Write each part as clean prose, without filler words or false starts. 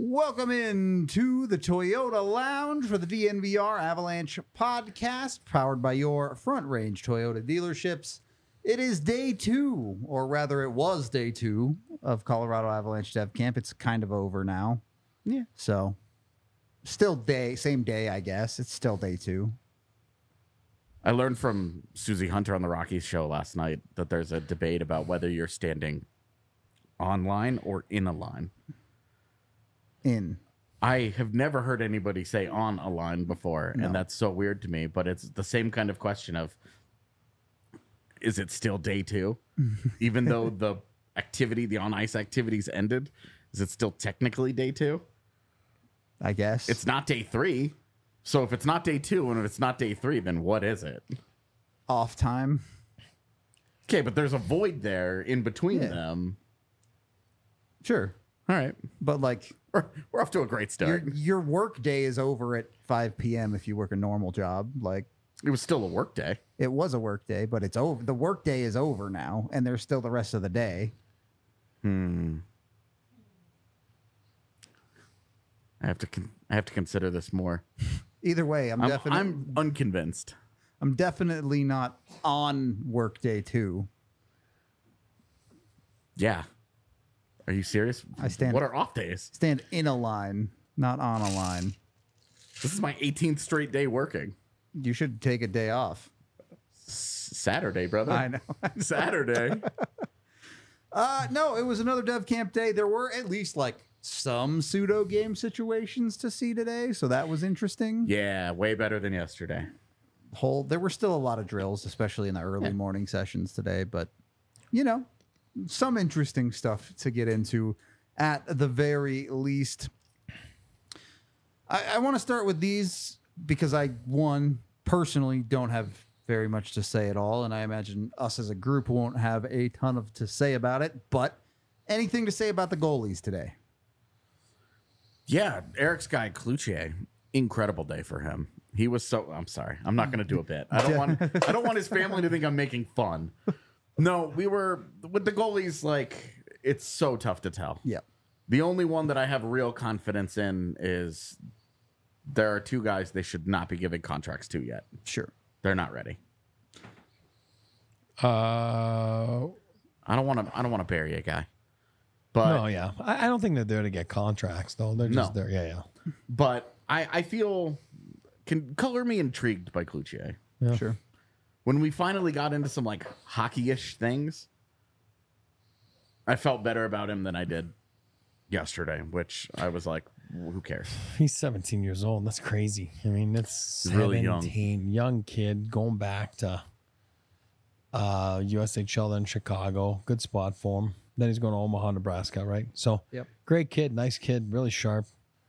Welcome in to the Toyota Lounge for the DNVR Avalanche podcast, powered by your Front Range Toyota dealerships. It is day two, or rather it was day two of Colorado Avalanche Dev Camp. It's kind of over now. Yeah. So still same day, I guess. It's still day two. I learned from Susie Hunter on the Rockies show last night that there's a debate about whether you're standing on line or in a line. I have never heard anybody say on a line before, and that's so weird to me, but it's the same kind of question of, is it still day two? Even though the on-ice activities ended, is it still technically day two? I guess. It's not day three. So if it's not day two and if it's not day three, then what is it? Off time. Okay, but there's a void there in between them. Sure. All right. But like... We're off to a great start. Your work day is over at 5 p.m. if you work a normal job. Like, it was still a work day. It was a work day, but it's over. The work day is over now, and there's still the rest of the day. I have to consider this more. Either way, I'm unconvinced. I'm definitely not on work day two. Yeah. Are you serious? What are off days? Stand in a line, not on a line. This is my 18th straight day working. You should take a day off. Saturday, brother. I know. Saturday. No, it was another Dev Camp day. There were at least like some pseudo game situations to see today, so that was interesting. Yeah, way better than yesterday. There were still a lot of drills, especially in the early morning sessions today, but you know, some interesting stuff to get into at the very least. I want to start with these because I, personally don't have very much to say at all, and I imagine us as a group won't have a ton to say about it, but anything to say about the goalies today? Yeah, Eric's guy, Cloutier, incredible day for him. He was I'm sorry. I'm not going to do a bit. I don't want his family to think I'm making fun. No, we were with the goalies. Like, it's so tough to tell. Yeah. The only one that I have real confidence in is there are two guys they should not be giving contracts to yet. Sure. They're not ready. I don't want to bury a guy. But no, yeah. I don't think they're there to get contracts, though. They're just there. Yeah. But I feel can color me intrigued by Cloutier. Yeah. Sure. When we finally got into some like hockey-ish things, I felt better about him than I did yesterday, which I was like, who cares? He's 17 years old. That's crazy. I mean, it's really young kid going back to USHL, then Chicago. Good spot for him. Then he's going to Omaha, Nebraska, right? So, great kid, nice kid, really sharp.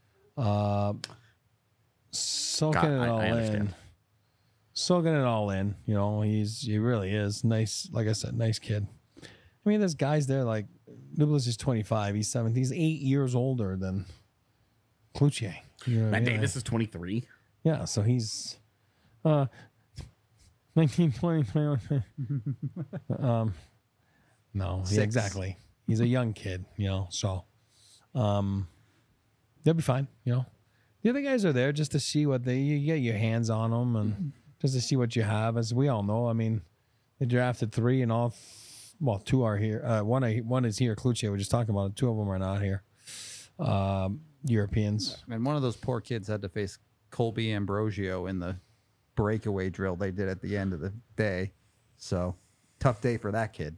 Soaking it all in. Soaking it all in. You know, he really is nice. Like I said, nice kid. I mean, there's guys there like Dubas is 25. He's 17. He's 8 years older than Cloutier. You know Matt Davis is 23. Yeah, so he's 19, 20, 21. No, yeah, exactly. He's a young kid, you know, so they'll be fine, you know. The other guys are there just to see what you get your hands on them and just to see what you have. As we all know, I mean, they drafted 3 and all, two are here. One is here, Cloutier, we're just talking about it. 2 of them are not here. Europeans. And one of those poor kids had to face Colby Ambrosio in the breakaway drill they did at the end of the day. So, tough day for that kid.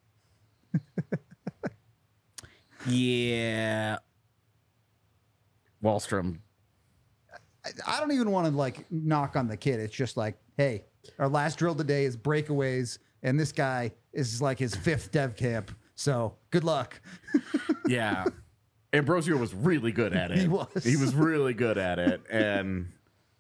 Yeah. Wallstrom. I don't even want to like knock on the kid. It's just like, hey, our last drill today is breakaways, and this guy is like his 5th dev camp. So good luck. Yeah. Ambrosio was really good at it. He was really good at it. And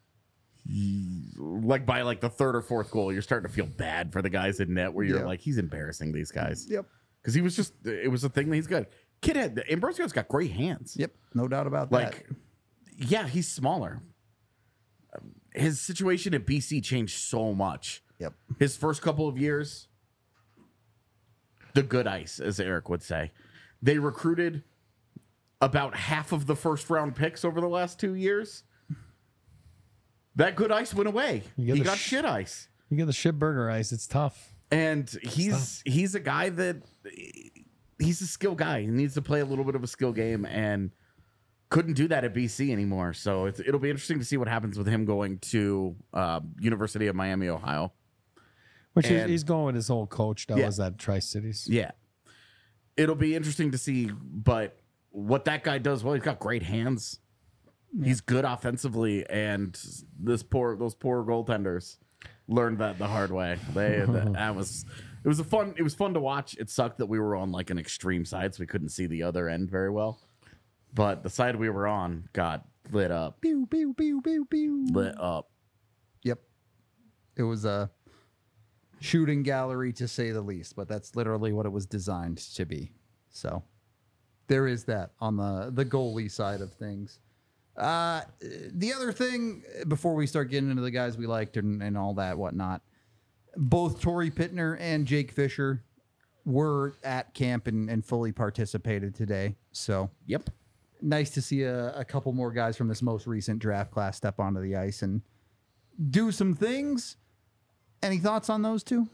like by like the 3rd or 4th goal, you're starting to feel bad for the guys in net where you're like, he's embarrassing these guys. Yep. Because it was a thing that he's good. Ambrosio's got great hands. Yep. No doubt about that. Yeah, he's smaller. His situation at BC changed so much. Yep. His first couple of years, the good ice, as Eric would say. They recruited about half of the first round picks over the last 2 years. That good ice went away. He got shit ice. You get the shit burger ice. It's tough. And he's a guy that he's a skill guy. He needs to play a little bit of a skill game and couldn't do that at BC anymore. So it'll be interesting to see what happens with him going to University of Miami, Ohio. Which he's going with his old coach that was at Tri-Cities. Yeah. It'll be interesting to see, but what that guy does, well, he's got great hands. He's good offensively, and those poor goaltenders learned that the hard way. It was fun to watch. It sucked that we were on like an extreme side, so we couldn't see the other end very well. But the side we were on got lit up. Pew, pew, pew, pew, pew. Lit up. Yep. It was a shooting gallery to say the least, but that's literally what it was designed to be. So there is that on the goalie side of things. The other thing, before we start getting into the guys we liked and all that whatnot, both Torrey Pittner and Jake Fisher were at camp and fully participated today. So Yep. Nice to see a couple more guys from this most recent draft class step onto the ice and do some things. Any thoughts on those two?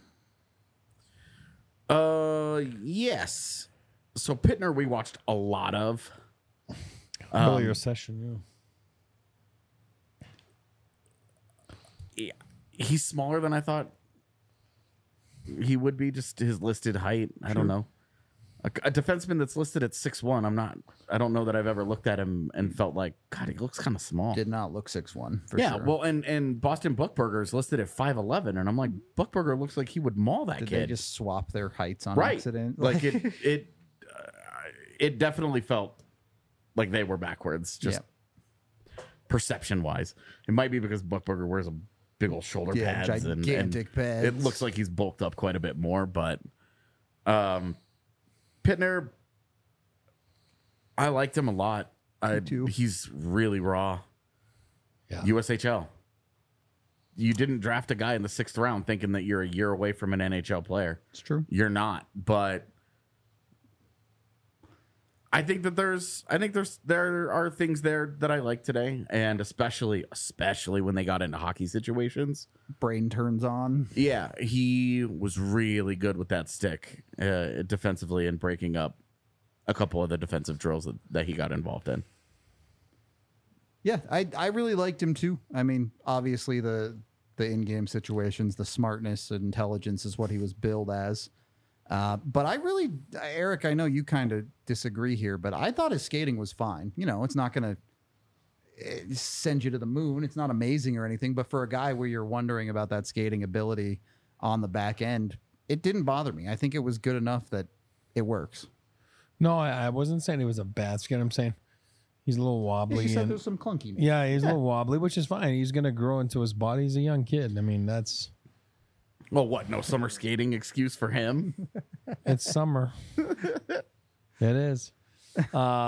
Yes. So Pittner, we watched a lot of. Earlier session, Yeah, he's smaller than I thought he would be. Just his listed height. I don't know. A defenseman that's listed at 6'1", I don't know that I've ever looked at him and felt like, God, he looks kind of small. Did not look 6'1" for yeah, sure. well, and Boston Buckburger is listed at 5'11", and I'm like, Buckburger looks like he would maul that Did kid. they just swap their heights on right. accident? Like it definitely felt like they were backwards, just perception wise. It might be because Buckburger wears a big old shoulder pads gigantic pads. It looks like he's bulked up quite a bit more, but Pittner, I liked him a lot. too. He's really raw. Yeah. USHL. You didn't draft a guy in the 6th round thinking that you're a year away from an NHL player. It's true. You're not, but I think there are things there that I like today, and especially when they got into hockey situations. Brain turns on. Yeah, he was really good with that stick defensively and breaking up a couple of the defensive drills that he got involved in. Yeah, I really liked him too. I mean, obviously the in-game situations, the smartness and intelligence is what he was billed as. But I really, Eric, I know you kind of disagree here, but I thought his skating was fine. You know, it's not going to send you to the moon. It's not amazing or anything, but for a guy where you're wondering about that skating ability on the back end, it didn't bother me. I think it was good enough that it works. No, I wasn't saying he was a bad skate. I'm saying he's a little wobbly. You said there's some clunkiness. Yeah, he's a little wobbly, which is fine. He's going to grow into his body. He's a young kid. I mean, that's... Well, what? No summer skating excuse for him? It's summer. It is. You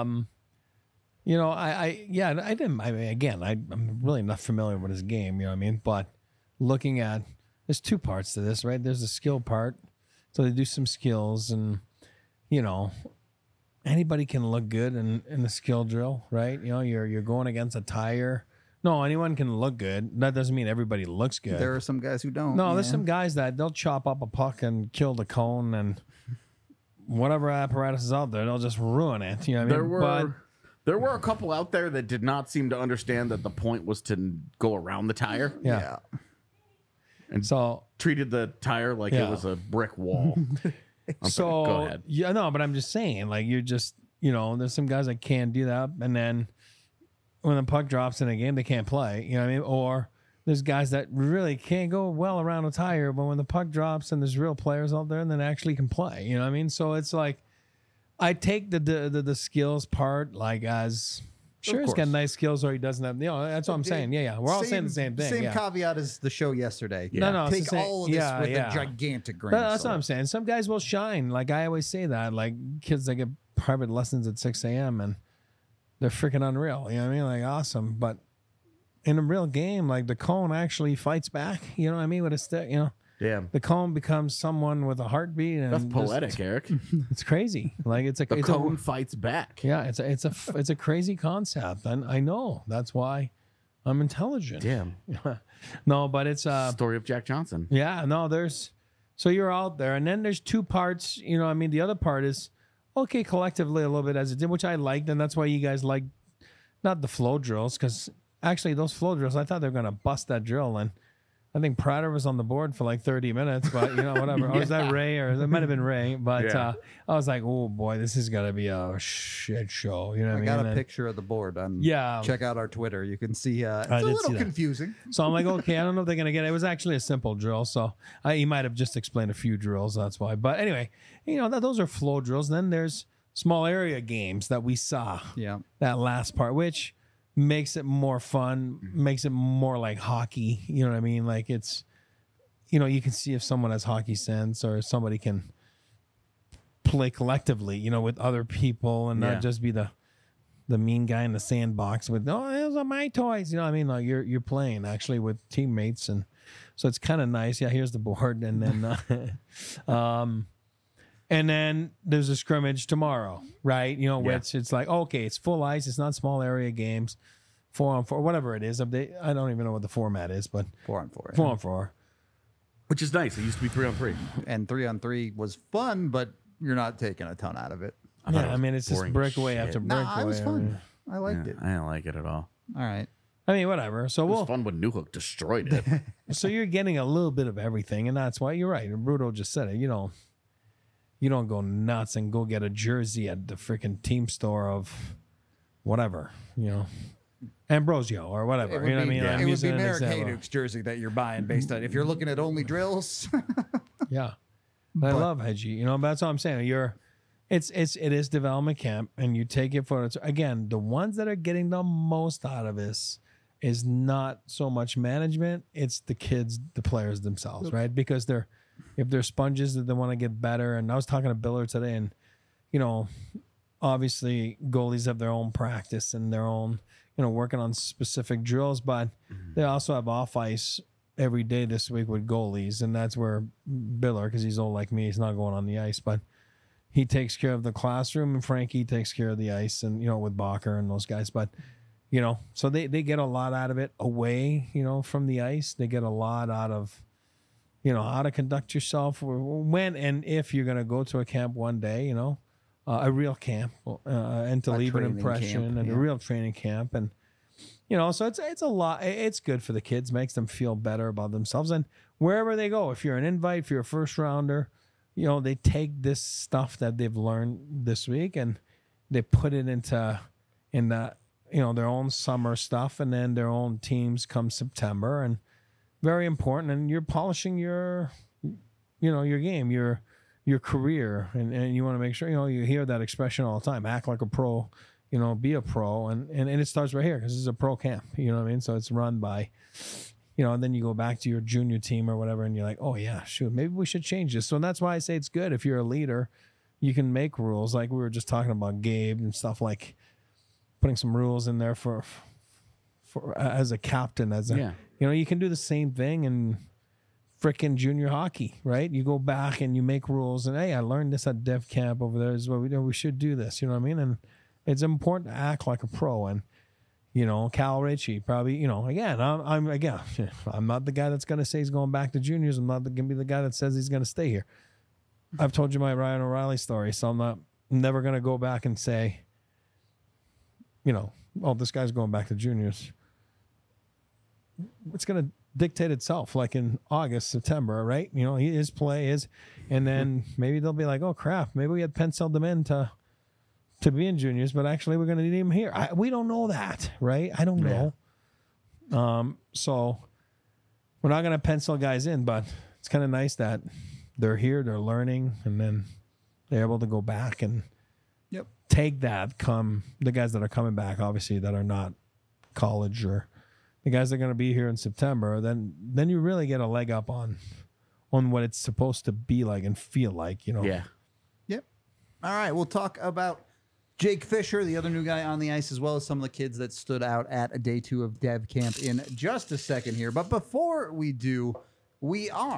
know, I didn't. I mean, again, I'm really not familiar with his game. You know what I mean? But looking at, there's two parts to this, right? There's the skill part, so they do some skills, and you know, anybody can look good in the skill drill, right? You know, you're going against a tire. No, anyone can look good. That doesn't mean everybody looks good. There are some guys who don't. No, there's some guys that they'll chop up a puck and kill the cone and whatever apparatus is out there, they'll just ruin it. You know what I mean? There were a couple out there that did not seem to understand that the point was to go around the tire. Yeah. And so treated the tire like it was a brick wall. So go ahead. Yeah, no, but I'm just saying, like, you're just, you know, there's some guys that can do that, and then when the puck drops in a game, they can't play. You know what I mean? Or there's guys that really can't go well around a tire, but when the puck drops and there's real players out there, and then actually can play. You know what I mean? So it's like, I take the skills part like as sure he's got nice skills or he doesn't have. You know, that's what I'm saying. Yeah. We're all saying the same thing. Same caveat as the show yesterday. Yeah. No, take all of this with a gigantic grain. That's what I'm saying. Some guys will shine. Like I always say that. Like kids that get private lessons at 6 a.m. and they're freaking unreal. You know what I mean? Like awesome. But in a real game, like the cone actually fights back. You know what I mean? With a stick, you know. Damn. The cone becomes someone with a heartbeat. And That's poetic, Eric. It's crazy. Like it's a The it's cone fights back. Yeah, it's a crazy concept, and I know that's why I'm intelligent. Damn. No, but it's Story of Jack Johnson. yeah, no, so you're out there, and then there's two parts. You know, I mean, the other part is okay collectively a little bit as it did, which I liked, and that's why you guys liked not the flow drills, because actually those flow drills, I thought they were gonna bust that drill, and I think Prater was on the board for like 30 minutes, but you know, whatever. Oh, was that Ray? Or it might have been Ray. But I was like, oh boy, this is gonna be a shit show. You know what I mean? I got a picture of the board. Check out our Twitter. You can see it's a little confusing. So I'm like, okay, I don't know if they're gonna get it. It was actually a simple drill, so he might have just explained a few drills. That's why. But anyway, you know, those are flow drills. Then there's small area games that we saw. Yeah, that last part, which makes it more fun, makes it more like hockey. You know what I mean? Like it's, you know, you can see if someone has hockey sense or somebody can play collectively, you know, with other people and not just be the mean guy in the sandbox with, oh, those are my toys. You know what I mean? Like you're playing actually with teammates. And so it's kind of nice. Yeah, here's the board. And then, and then there's a scrimmage tomorrow, right? You know, which it's like, okay, it's full ice. It's not small area games, 4-on-4, whatever it is. I don't even know what the format is, but 4-on-4. 4-on-4. Which is nice. It used to be 3-on-3. And 3-on-3 was fun, but you're not taking a ton out of it. I mean, it's just breakaway after breakaway. Nah, it was fun. I liked it. I didn't like it at all. All right. I mean, whatever. So it was fun when Newhook destroyed it. So you're getting a little bit of everything, and that's why you're right. And Bruto just said it. You don't go nuts and go get a jersey at the freaking team store of whatever, you know, Ambrosio or whatever. You know what I mean? It would be Marek Hayduke's jersey that you're buying based on if you're looking at only drills. Yeah. I love Hedgie. You know, but that's all I'm saying. It is development camp, and you take it for it's again, the ones that are getting the most out of this is not so much management, it's the kids, the players themselves, right? Because if they're sponges that they want to get better. And I was talking to Biller today, and you know, obviously goalies have their own practice and their own, you know, working on specific drills, but they also have off ice every day this week with goalies, and that's where Biller, because he's old like me, he's not going on the ice, but he takes care of the classroom, and Frankie takes care of the ice, and you know, with Bacher and those guys. But you know, so they get a lot out of it away, you know, from the ice. They get a lot out of, you know, how to conduct yourself when and if you're going to go to a camp one day, you know, a real camp, and to leave an impression and a real training camp. And, you know, so it's a lot. It's good for the kids, makes them feel better about themselves. And wherever they go, if you're an invite, if you're a first rounder, you know, they take this stuff that they've learned this week and they put it in the, you know, their own summer stuff, and then their own teams come September. And very important, and you're polishing your, you know, your game, your career, and you want to make sure, you know, you hear that expression all the time, act like a pro, you know, be a pro, and it starts right here because this is a pro camp, you know what I mean? So it's run by, you know, and then you go back to your junior team or whatever, and you're like, oh yeah, shoot, maybe we should change this. So that's why I say it's good if you're a leader, you can make rules, like we were just talking about Gabe and stuff, like putting some rules in there for as a captain, you know, you can do the same thing in frickin' junior hockey, right? You go back and you make rules, and hey, I learned this at Dev Camp over there is what we do. We should do this, you know what I mean? And it's important to act like a pro. And you know, Cal Ritchie probably, you know, again, I'm not the guy that's gonna say he's going back to juniors. I'm not gonna be the guy that says he's gonna stay here. I've told you my Ryan O'Reilly story, so I'm never gonna go back and say, you know, oh, this guy's going back to juniors. It's going to dictate itself, like in August, September, right? You know, his play is, and then maybe they'll be like, oh crap, maybe we had penciled them in to be in juniors, but actually we're going to need him here. We don't know that, right? I don't know. So we're not going to pencil guys in, but it's kind of nice that they're here, they're learning, and then they're able to go back and take that come the guys that are coming back, obviously, that are not college, or the guys that are going to be here in September, then you really get a leg up on what it's supposed to be like and feel like, you know. Yeah. Yep. All right, we'll talk about Jake Fisher, the other new guy on the ice, as well as some of the kids that stood out at day 2 of Dev Camp in just a second here. But before we do, we are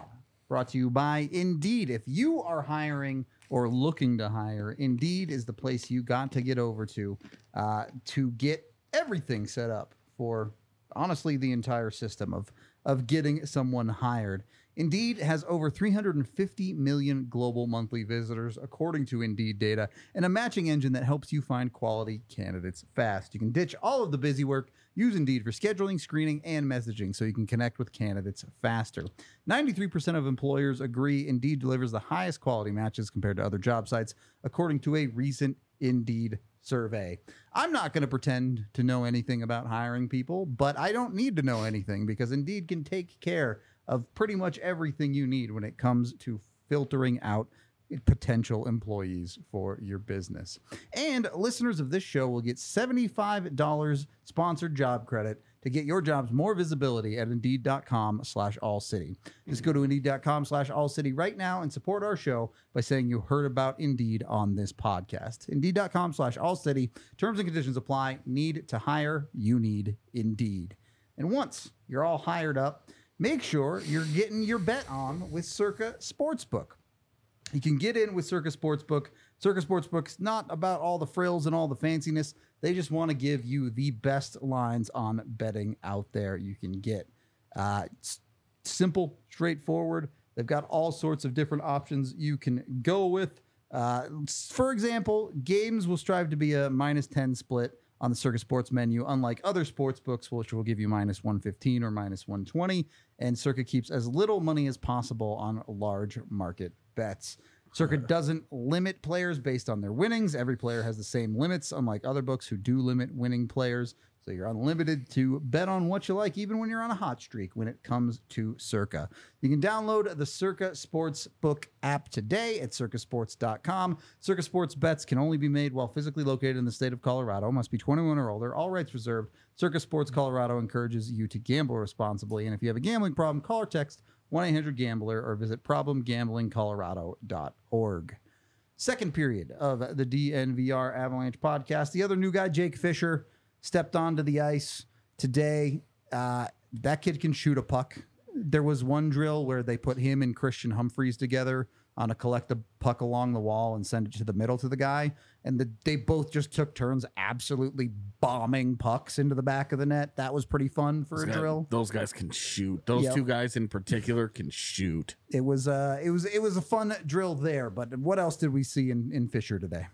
brought to you by Indeed. If you are hiring or looking to hire, Indeed is the place you got to get over to get everything set up for, honestly, the entire system of getting someone hired. Indeed has over 350 million global monthly visitors, according to Indeed data, and a matching engine that helps you find quality candidates fast. You can ditch all of the busy work, use Indeed for scheduling, screening, and messaging so you can connect with candidates faster. 93% of employers agree Indeed delivers the highest quality matches compared to other job sites, according to a recent Indeed survey. I'm not going to pretend to know anything about hiring people, but I don't need to know anything because Indeed can take care of pretty much everything you need when it comes to filtering out potential employees for your business. And listeners of this show will get $75 sponsored job credit to get your jobs more visibility at Indeed.com/AllCity. Just go to Indeed.com/AllCity right now and support our show by saying you heard about Indeed on this podcast. Indeed.com/AllCity. Terms and conditions apply. Need to hire? You need Indeed. And once you're all hired up, make sure you're getting your bet on with Circa Sportsbook. You can get in with Circa Sportsbook. Circa Sportsbook's not about all the frills and all the fanciness. They just want to give you the best lines on betting out there you can get. Simple, straightforward. They've got all sorts of different options you can go with. For example, games will strive to be a -10 split on the Circa Sports menu, unlike other sports books, which will give you -115 or -120. And Circa keeps as little money as possible on large market bets. Circa doesn't limit players based on their winnings. Every player has the same limits, unlike other books who do limit winning players. So you're unlimited to bet on what you like, even when you're on a hot streak when it comes to Circa. You can download the Circa Sportsbook app today at circasports.com. Circa Sports bets can only be made while physically located in the state of Colorado. Must be 21 or older. All rights reserved. Circa Sports Colorado encourages you to gamble responsibly. And if you have a gambling problem, call or text 1-800-GAMBLER or visit problemgamblingcolorado.org. Second period of the DNVR Avalanche podcast. The other new guy, Jake Fisher, stepped onto the ice today. That kid can shoot a puck. There was one drill where they put him and Christian Humphreys together on a collective puck along the wall and send it to the middle to the guy. And they both just took turns absolutely bombing pucks into the back of the net. That was pretty fun for a drill. Those guys can shoot. Those two guys in particular can shoot. It was a fun drill there. But what else did we see in Fisher today?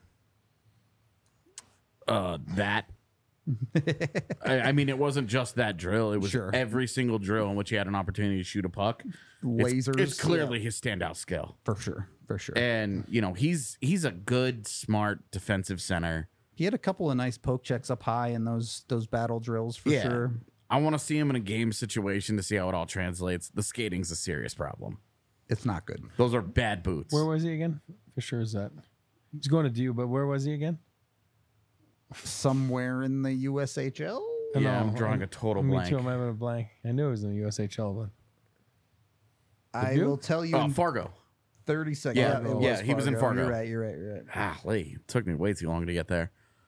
That. I mean, it wasn't just that drill. It was every single drill in which he had an opportunity to shoot a puck. Lasers. It's clearly his standout skill. For sure. And, you know, he's a good, smart defensive center. He had a couple of nice poke checks up high in those battle drills for sure. I want to see him in a game situation to see how it all translates. The skating's a serious problem. It's not good. Those are bad boots. Where was he again? For sure is that. He's going to DU, but where was he again? Somewhere in the USHL? Yeah, I'm drawing a total blank. Me too, I'm having a blank. I knew it was in the USHL, but I will tell you in Fargo. 30 seconds. Yeah, he was in Fargo. You're right. It took me way too long to get there.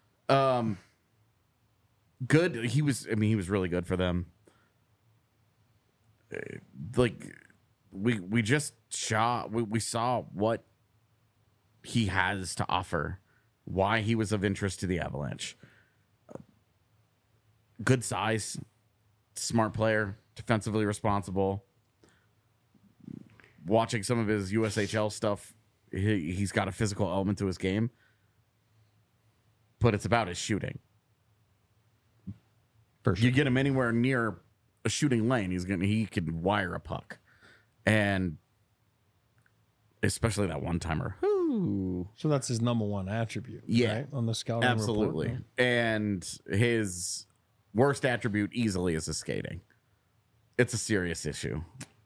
Good. He was really good for them. Like we just we saw what he has to offer. Why he was of interest to the Avalanche. Good size, smart player, defensively responsible. Watching some of his USHL stuff, he's got a physical element to his game, but it's about his shooting. For sure. You get him anywhere near a shooting lane, he can wire a puck, and especially that one timer. So that's his number one attribute, right? On the scouting absolutely report. And his worst attribute easily is his skating. It's a serious issue.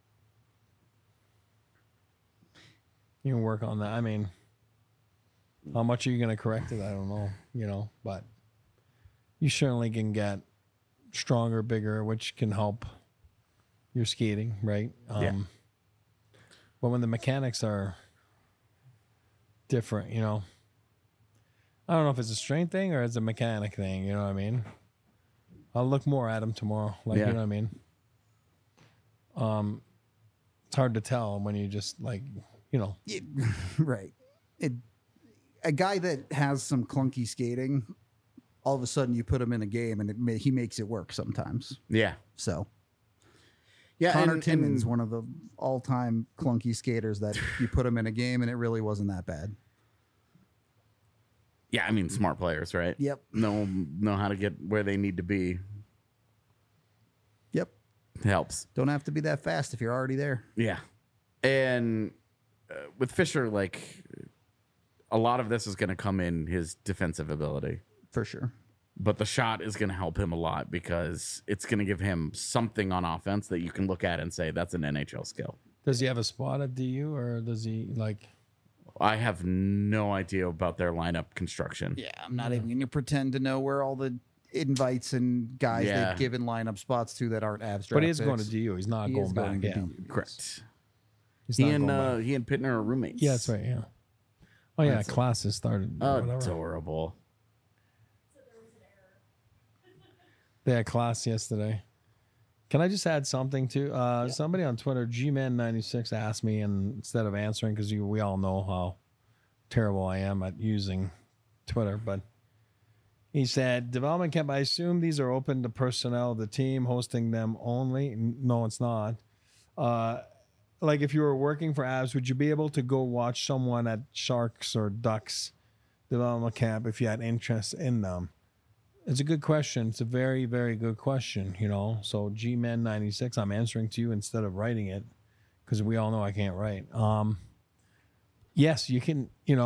You can work on that. I mean, how much are you going to correct it? I don't know, but you certainly can get stronger, bigger, which can help your skating, right? But when the mechanics are different, I don't know if it's a strength thing or it's a mechanic thing, you know what I mean? I'll look more at him tomorrow, you know what I mean? it's hard to tell when you just like, Right. A guy that has some clunky skating, all of a sudden you put him in a game and he makes it work sometimes. Yeah. So, yeah, Connor Timmins, one of the all-time clunky skaters that you put him in a game and it really wasn't that bad. Yeah, I mean, smart players, right? Yep. Know how to get where they need to be. Yep. It helps. Don't have to be that fast if you're already there. Yeah. And with Fisher, like, a lot of this is going to come in his defensive ability. For sure. But the shot is going to help him a lot because it's going to give him something on offense that you can look at and say, that's an NHL skill. Does he have a spot at DU or does he like... I have no idea about their lineup construction. Yeah, I'm not even going to pretend to know where all the invites and guys they've given lineup spots to that aren't abstract. But he is going to DU. He's not going back. Yeah. Correct. He and Pittner are roommates. Yeah, that's right. Yeah. Oh yeah, classes started. Adorable. They had class yesterday. Can I just add something to somebody on Twitter, Gman96 asked me, and instead of answering, because we all know how terrible I am at using Twitter, but he said, development camp, I assume these are open to personnel of the team, hosting them only. No, it's not. Like if you were working for Avs, would you be able to go watch someone at Sharks or Ducks development camp if you had interest in them? It's a good question. It's a very, very good question, So Gman96, I'm answering to you instead of writing it because we all know I can't write. Yes, you can,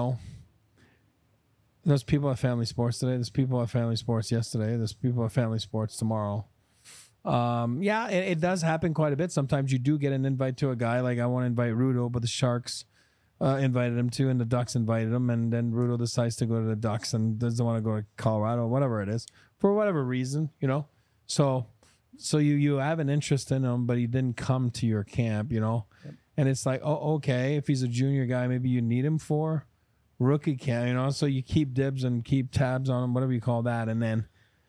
there's people at Family Sports today. There's people at Family Sports yesterday. There's people at Family Sports tomorrow. Yeah, it does happen quite a bit. Sometimes you do get an invite to a guy. Like I want to invite Rudo, but the Sharks invited him to, and the Ducks invited him, and then Rudo decides to go to the Ducks and doesn't want to go to Colorado, whatever it is, for whatever reason, So you have an interest in him, but he didn't come to your camp, Yep. And it's like, oh, okay, if he's a junior guy, maybe you need him for rookie camp, So you keep dibs and keep tabs on him, whatever you call that, and then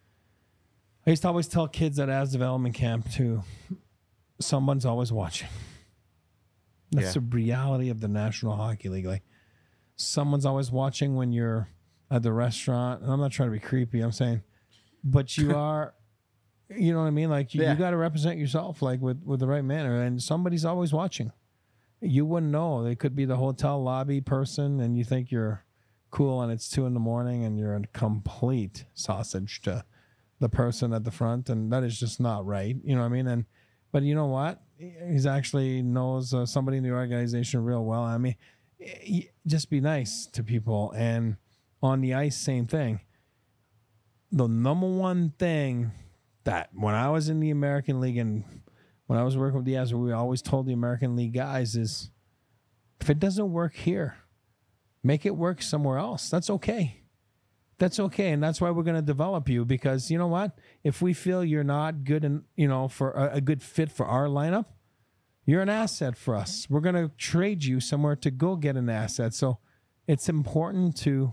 I used to always tell kids at Avs development camp too, someone's always watching. That's the reality of the National Hockey League. Like someone's always watching when you're at the restaurant. And I'm not trying to be creepy. I'm saying, but you are, you know what I mean? Like you got to represent yourself like with the right manner, and somebody's always watching. You wouldn't know. They could be the hotel lobby person and you think you're cool and it's 2 a.m. and you're a complete sausage to the person at the front. And that is just not right. You know what I mean? But you know what? He's actually knows somebody in the organization real well. I mean, just be nice to people. And on the ice, same thing. The number one thing that when I was in the American League and when I was working with the Avs, we always told the American League guys is, if it doesn't work here, make it work somewhere else. That's okay. That's okay. And that's why we're going to develop you, because you know what? If we feel you're not good and, for a good fit for our lineup, you're an asset for us. We're going to trade you somewhere to go get an asset. So it's important to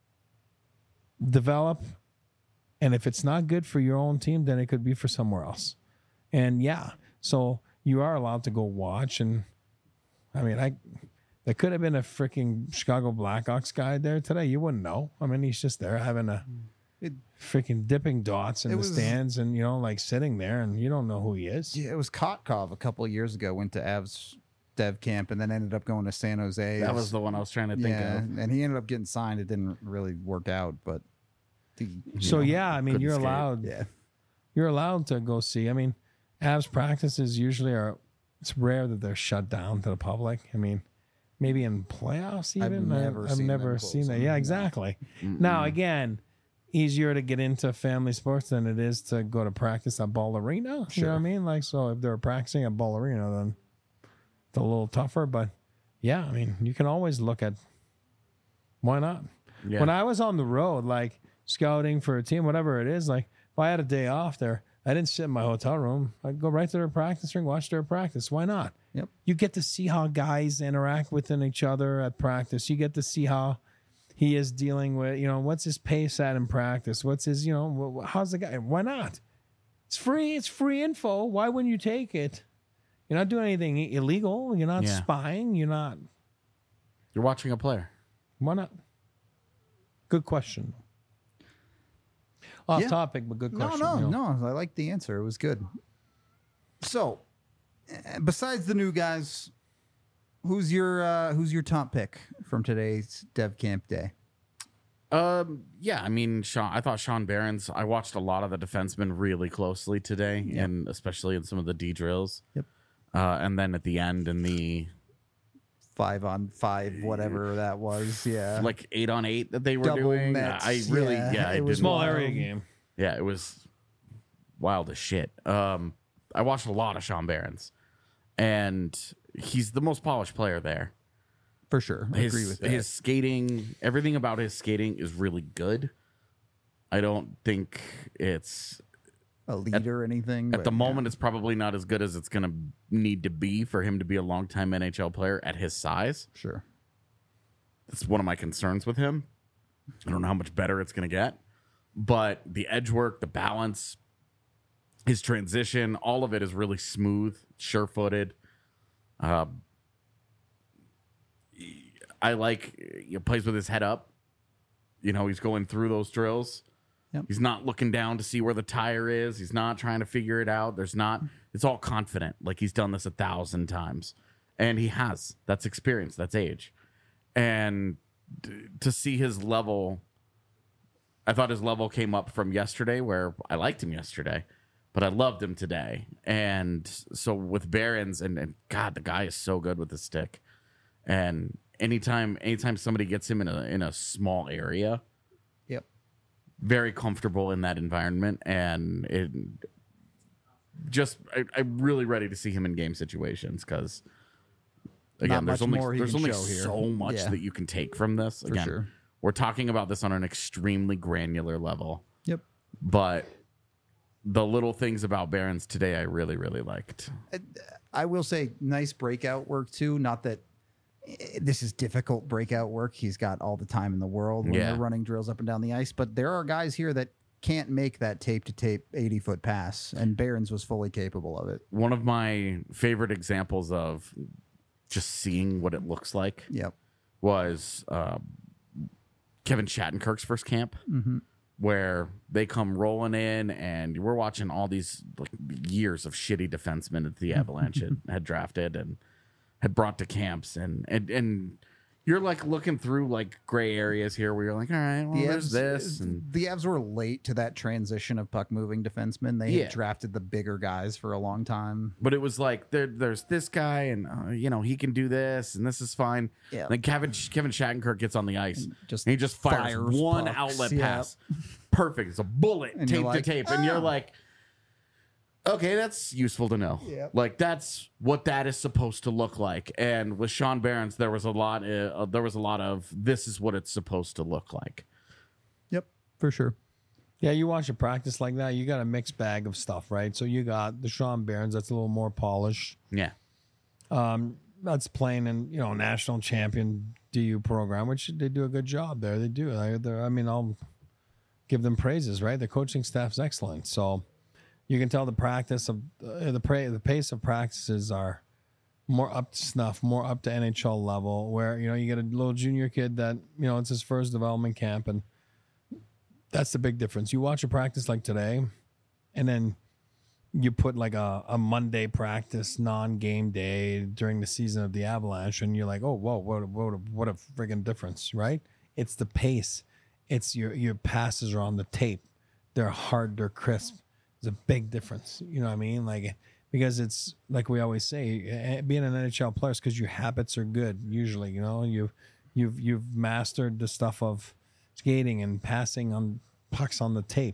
develop. And if it's not good for your own team, then it could be for somewhere else. And so you are allowed to go watch. And I mean, there could have been a freaking Chicago Blackhawks guy there today. You wouldn't know. I mean, he's just there having a freaking dipping dots in the stands and, like sitting there, and you don't know who he is. Yeah, it was Kotkov a couple of years ago, went to Avs dev camp and then ended up going to San Jose. That was the one I was trying to think of. And he ended up getting signed. It didn't really work out, but. I mean, you're allowed. Yeah. You're allowed to go see. I mean, Avs practices usually it's rare that they're shut down to the public. I mean, maybe in playoffs even. I've never seen that. Yeah, exactly. Mm-mm. Now, again, easier to get into family sports than it is to go to practice at Ball Arena. Sure. You know what I mean? Like, so if they're practicing at Ball Arena, then it's a little tougher. But yeah, I mean, you can always look at why not. Yeah. When I was on the road, like scouting for a team, whatever it is, like if I had a day off there, I didn't sit in my hotel room. I'd go right to their practice ring, watch their practice. Why not? Yep. You get to see how guys interact within each other at practice. You get to see how he is dealing with, what's his pace at in practice? What's his, how's the guy? Why not? It's free. It's free info. Why wouldn't you take it? You're not doing anything illegal. You're not spying. You're watching a player. Why not? Good question. Off topic, but good question. No. I like the answer. It was good. So, besides the new guys, who's your top pick from today's Dev Camp Day? Yeah, I mean, I thought Sean Behrens. I watched a lot of the defensemen really closely today, and especially in some of the D drills. Yep. And then at the end in the 5-on-5, whatever that was, like 8-on-8 that they were double doing. nets, it was small area game. Yeah, it was wild as shit. I watched a lot of Sean Behrens, and he's the most polished player there. For sure. I agree with that. His skating, everything about his skating is really good. I don't think it's elite or anything. At the moment, it's probably not as good as it's going to need to be for him to be a longtime NHL player at his size. Sure. That's one of my concerns with him. I don't know how much better it's going to get. But the edge work, the balance, his transition, all of it is really smooth, sure-footed. I like he plays with his head up. You know, he's going through those drills. Yep. He's not looking down to see where the tire is. He's not trying to figure it out. It's all confident. Like he's done this 1,000 times. And he has. That's experience. That's age. And to see his level, I thought his level came up from yesterday where I liked him yesterday, but I loved him today. And so with Behrens, and God, the guy is so good with the stick. And anytime somebody gets him in a small area, very comfortable in that environment, and I'm really ready to see him in game situations because again, there's only so much that you can take from this. Again, sure. We're talking about this on an extremely granular level. Yep. But the little things about Behrens today, I really, really liked. I will say, nice breakout work too. Not that this is difficult breakout work. He's got all the time in the world when they're running drills up and down the ice. But there are guys here that can't make that tape-to-tape 80-foot pass, and Behrens was fully capable of it. One of my favorite examples of just seeing what it looks like was Kevin Shattenkirk's first camp, where they come rolling in, and we're watching all these years of shitty defensemen that the Avalanche had drafted and had brought to camps, and you're looking through gray areas here where you're like, all right, well, there's this. And the Avs were late to that transition of puck moving defensemen. They had drafted the bigger guys for a long time. But it was like, there's this guy, and he can do this, and this is fine. Yeah. Then Kevin Shattenkirk gets on the ice, and he just fires one pucks, outlet pass. Perfect. It's a bullet, and tape to tape. And you're like, okay, that's useful to know. Yep. That's what that is supposed to look like. And with Sean Behrens, there was a lot of this is what it's supposed to look like. Yep, for sure. Yeah, you watch a practice like that, you got a mixed bag of stuff, right? So you got the Sean Behrens that's a little more polished. Yeah. That's playing in national champion DU program, which they do a good job there. They do. I'll give them praises, right? The coaching staff's excellent. So you can tell the practice of the pace of practices are more up to snuff, more up to NHL level. Where you get a little junior kid that it's his first development camp, and that's the big difference. You watch a practice like today, and then you put a Monday practice, non-game day during the season of the Avalanche, and you're like, oh, whoa, what a friggin' difference, right? It's the pace. It's your passes are on the tape. They're hard. They're crisp. There's a big difference. You know what I mean? Because it's like we always say, being an NHL player is because your habits are good. Usually, you've mastered the stuff of skating and passing on pucks on the tape.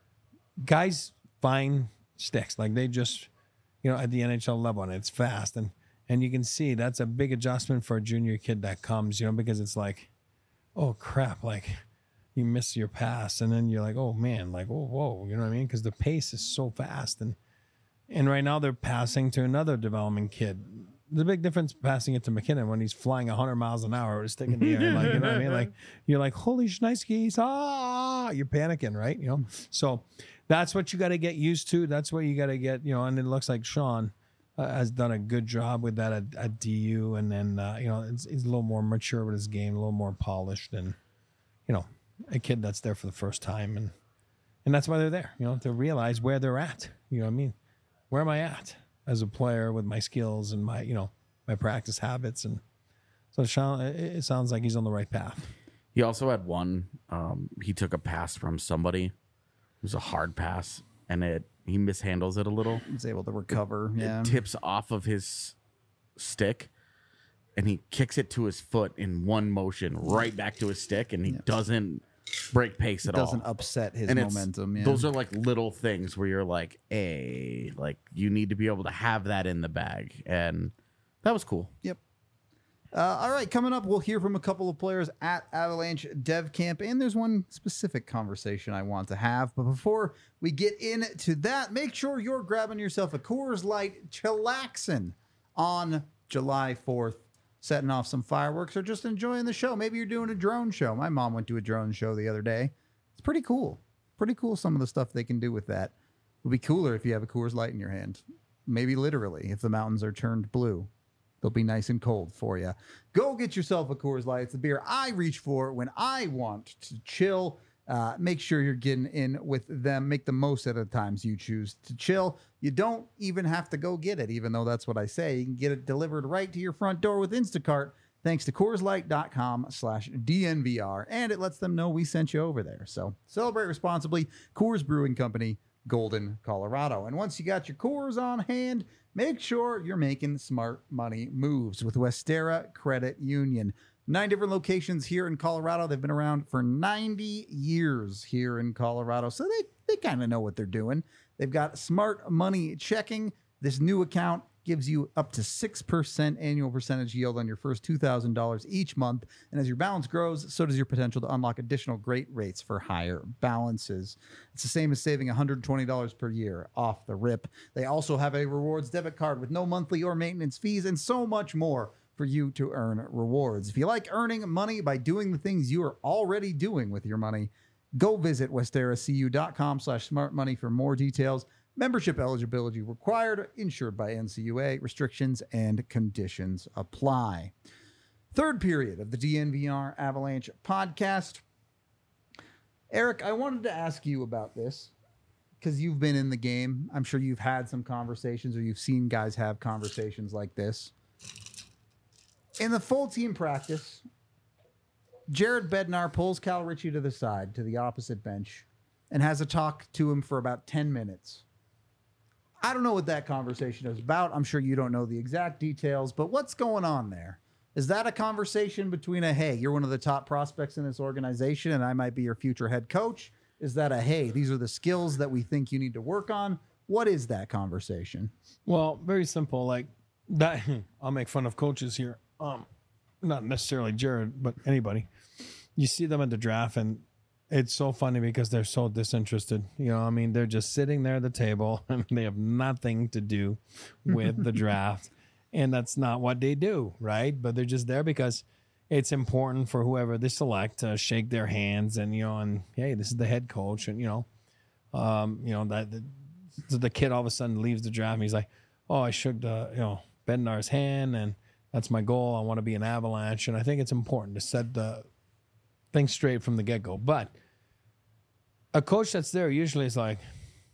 Guys find sticks they just, at the NHL level, and it's fast, and you can see that's a big adjustment for a junior kid that comes, because it's like, oh crap, you miss your pass, and then you're like, oh man, whoa, you know what I mean? Because the pace is so fast, and right now they're passing to another development kid. The big difference passing it to McKinnon when he's flying 100 miles an hour, stick in the air, you know what I mean? You're like, holy shnikes, you're panicking, right? So that's what you got to get used to. That's what you got to get, and it looks like Sean has done a good job with that at DU, and then he's a little more mature with his game, a little more polished, and a kid that's there for the first time, and that's why they're there, to realize where they're at. You know what I mean? Where am I at as a player with my skills and my my practice habits, and so it sounds like he's on the right path. He also had one. He took a pass from somebody. It was a hard pass, and he mishandles it a little. He's able to recover. It tips off of his stick, and he kicks it to his foot in one motion, right back to his stick, and he doesn't break pace at all. Doesn't upset his momentum. Yeah. Those are like little things where you're like, hey, like you need to be able to have that in the bag, and that was cool. Yep. All right, coming up, we'll hear from a couple of players at Avalanche Dev Camp, and there's one specific conversation I want to have. But before we get into that, make sure you're grabbing yourself a Coors Light Chillaxin on July 4th, setting off some fireworks or just enjoying the show. Maybe you're doing a drone show. My mom went to a drone show the other day. It's pretty cool. Pretty cool, some of the stuff they can do with that. It would be cooler if you have a Coors Light in your hand. Maybe literally, if the mountains are turned blue. They'll be nice and cold for you. Go get yourself a Coors Light. It's the beer I reach for when I want to chill. Make sure you're getting in with them. Make the most of the times you choose to chill. You don't even have to go get it, even though that's what I say. You can get it delivered right to your front door with Instacart, thanks to CoorsLight.com/DNVR. And it lets them know we sent you over there. So celebrate responsibly. Coors Brewing Company, Golden, Colorado. And once you got your Coors on hand, make sure you're making smart money moves with Westera Credit Union. 9 different locations here in Colorado. They've been around for 90 years here in Colorado, so they kind of know what they're doing. They've got smart money checking. This new account gives you up to 6% annual percentage yield on your first $2,000 each month. And as your balance grows, so does your potential to unlock additional great rates for higher balances. It's the same as saving $120 per year off the rip. They also have a rewards debit card with no monthly or maintenance fees and so much more for you to earn rewards. If you like earning money by doing the things you are already doing with your money, go visit westeracu.com/smartmoney for more details. Membership eligibility required, insured by NCUA. Restrictions and conditions apply. Third period of the DNVR Avalanche podcast. Eric, I wanted to ask you about this because you've been in the game. I'm sure you've had some conversations or you've seen guys have conversations like this. In the full team practice, Jared Bednar pulls Cal Ritchie to the side, to the opposite bench, and has a talk to him for about 10 minutes. I don't know what that conversation is about. I'm sure you don't know the exact details, but what's going on there? Is that a conversation between hey, you're one of the top prospects in this organization and I might be your future head coach? Is that hey, these are the skills that we think you need to work on? What is that conversation? Well, very simple. Like that, I'll make fun of coaches here. Not necessarily Jared, but anybody. You see them at the draft and it's so funny because they're so disinterested. They're just sitting there at the table and they have nothing to do with the draft. And that's not what they do, right? But they're just there because it's important for whoever they select to shake their hands and, and hey, this is the head coach. And, that the kid all of a sudden leaves the draft and he's like, oh, I shook Bednar's hand and that's my goal. I want to be an Avalanche. And I think it's important to set the thing straight from the get-go. But a coach that's there usually is like,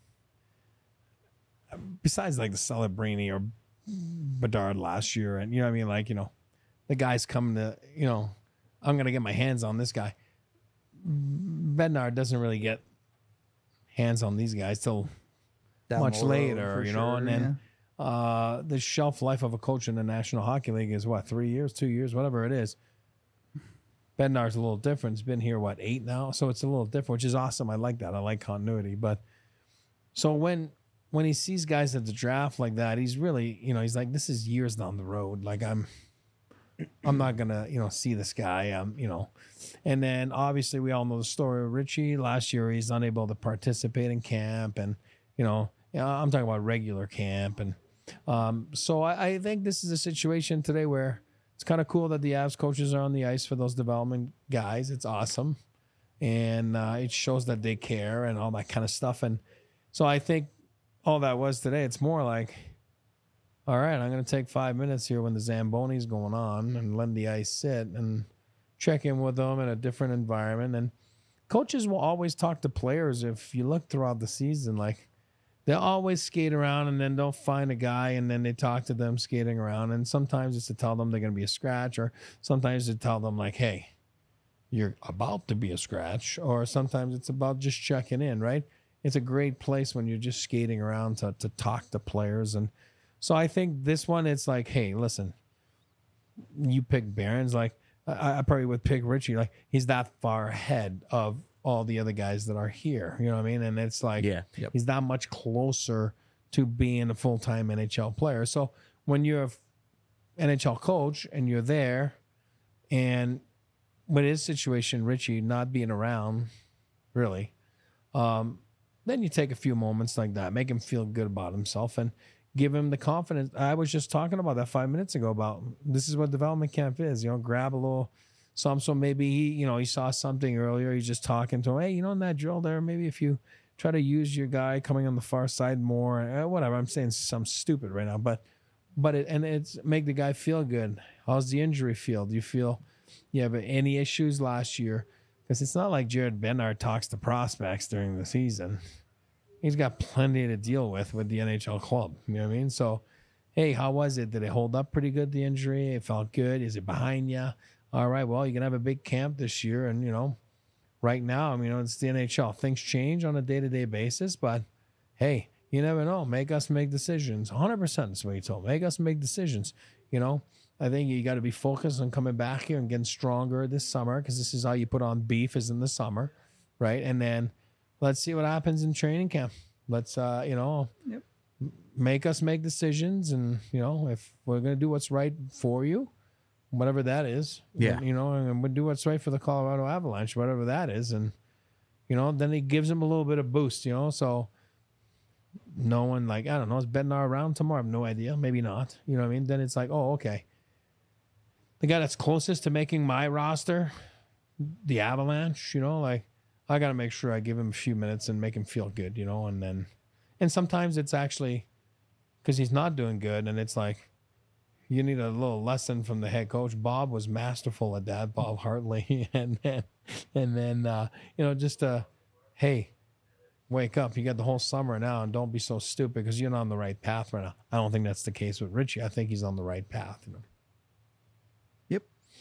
besides like the Celebrini or Bedard last year, and the guy's coming to, I'm going to get my hands on this guy. Bednar doesn't really get hands on these guys till much later, sure, and then the shelf life of a coach in the National Hockey League is what, 3 years, 2 years, whatever it is. Bednar's a little different. He's been here, 8 now? So it's a little different, which is awesome. I like that. I like continuity. But so when he sees guys at the draft like that, he's really, he's like, this is years down the road. Like I'm not going to, see this guy, And then obviously we all know the story of Ritchie. Last year he's unable to participate in camp and, I'm talking about regular camp. And so I think this is a situation today where it's kind of cool that the Avs coaches are on the ice for those development guys. It's awesome. And it shows that they care and all that kind of stuff. And so I think all that was today, it's more like, all right, I'm going to take 5 minutes here when the Zamboni's going on and let the ice sit and check in with them in a different environment. And coaches will always talk to players. If you look throughout the season, like they'll always skate around and then they'll find a guy and then they talk to them skating around. And sometimes it's to tell them they're going to be a scratch, or sometimes to tell them like, hey, you're about to be a scratch, or sometimes it's about just checking in, right? It's a great place when you're just skating around to talk to players. And so I think this one, it's like, hey, listen, you pick Barron's, like I probably would pick Richie. Like he's that far ahead of all the other guys that are here. You know what I mean? And it's like, he's that much closer to being a full-time NHL player. So when you're an NHL coach and you're there, and with his situation, Richie not being around, really, then you take a few moments like that, make him feel good about himself, and give him the confidence. I was just talking about that 5 minutes ago about this is what development camp is. Grab a little something. So maybe he saw something earlier. He's just talking to him. Hey, in that drill there, maybe if you try to use your guy coming on the far side more, whatever. I'm saying something stupid right now, but it's make the guy feel good. How's the injury feel? Do you feel you have any issues last year? Because it's not like Jared Bednar talks to prospects during the season. He's got plenty to deal with the NHL club. You know what I mean? So, hey, how was it? Did it hold up pretty good, the injury? It felt good. Is it behind you? All right, well, you're going to have a big camp this year. And, right now, it's the NHL. Things change on a day-to-day basis. But, hey, you never know. Make us make decisions. 100% is what he told me. Make us make decisions. I think you got to be focused on coming back here and getting stronger this summer, because this is how you put on beef, is in the summer, right? And then let's see what happens in training camp. Let's, make us make decisions. And, if we're going to do what's right for you, whatever that is, and we'll do what's right for the Colorado Avalanche, whatever that is. And, then he gives him a little bit of boost, so no one, like, I don't know, is Bednar around tomorrow? I have no idea. Maybe not. You know what I mean? Then it's like, oh, okay. The guy that's closest to making my roster, the Avalanche, like, I got to make sure I give him a few minutes and make him feel good, and sometimes it's actually because he's not doing good, and it's like you need a little lesson from the head coach. Bob was masterful at that, Bob Hartley, and then just hey, wake up. You got the whole summer now, and don't be so stupid because you're not on the right path right now. I don't think that's the case with Richie. I think he's on the right path. Yep.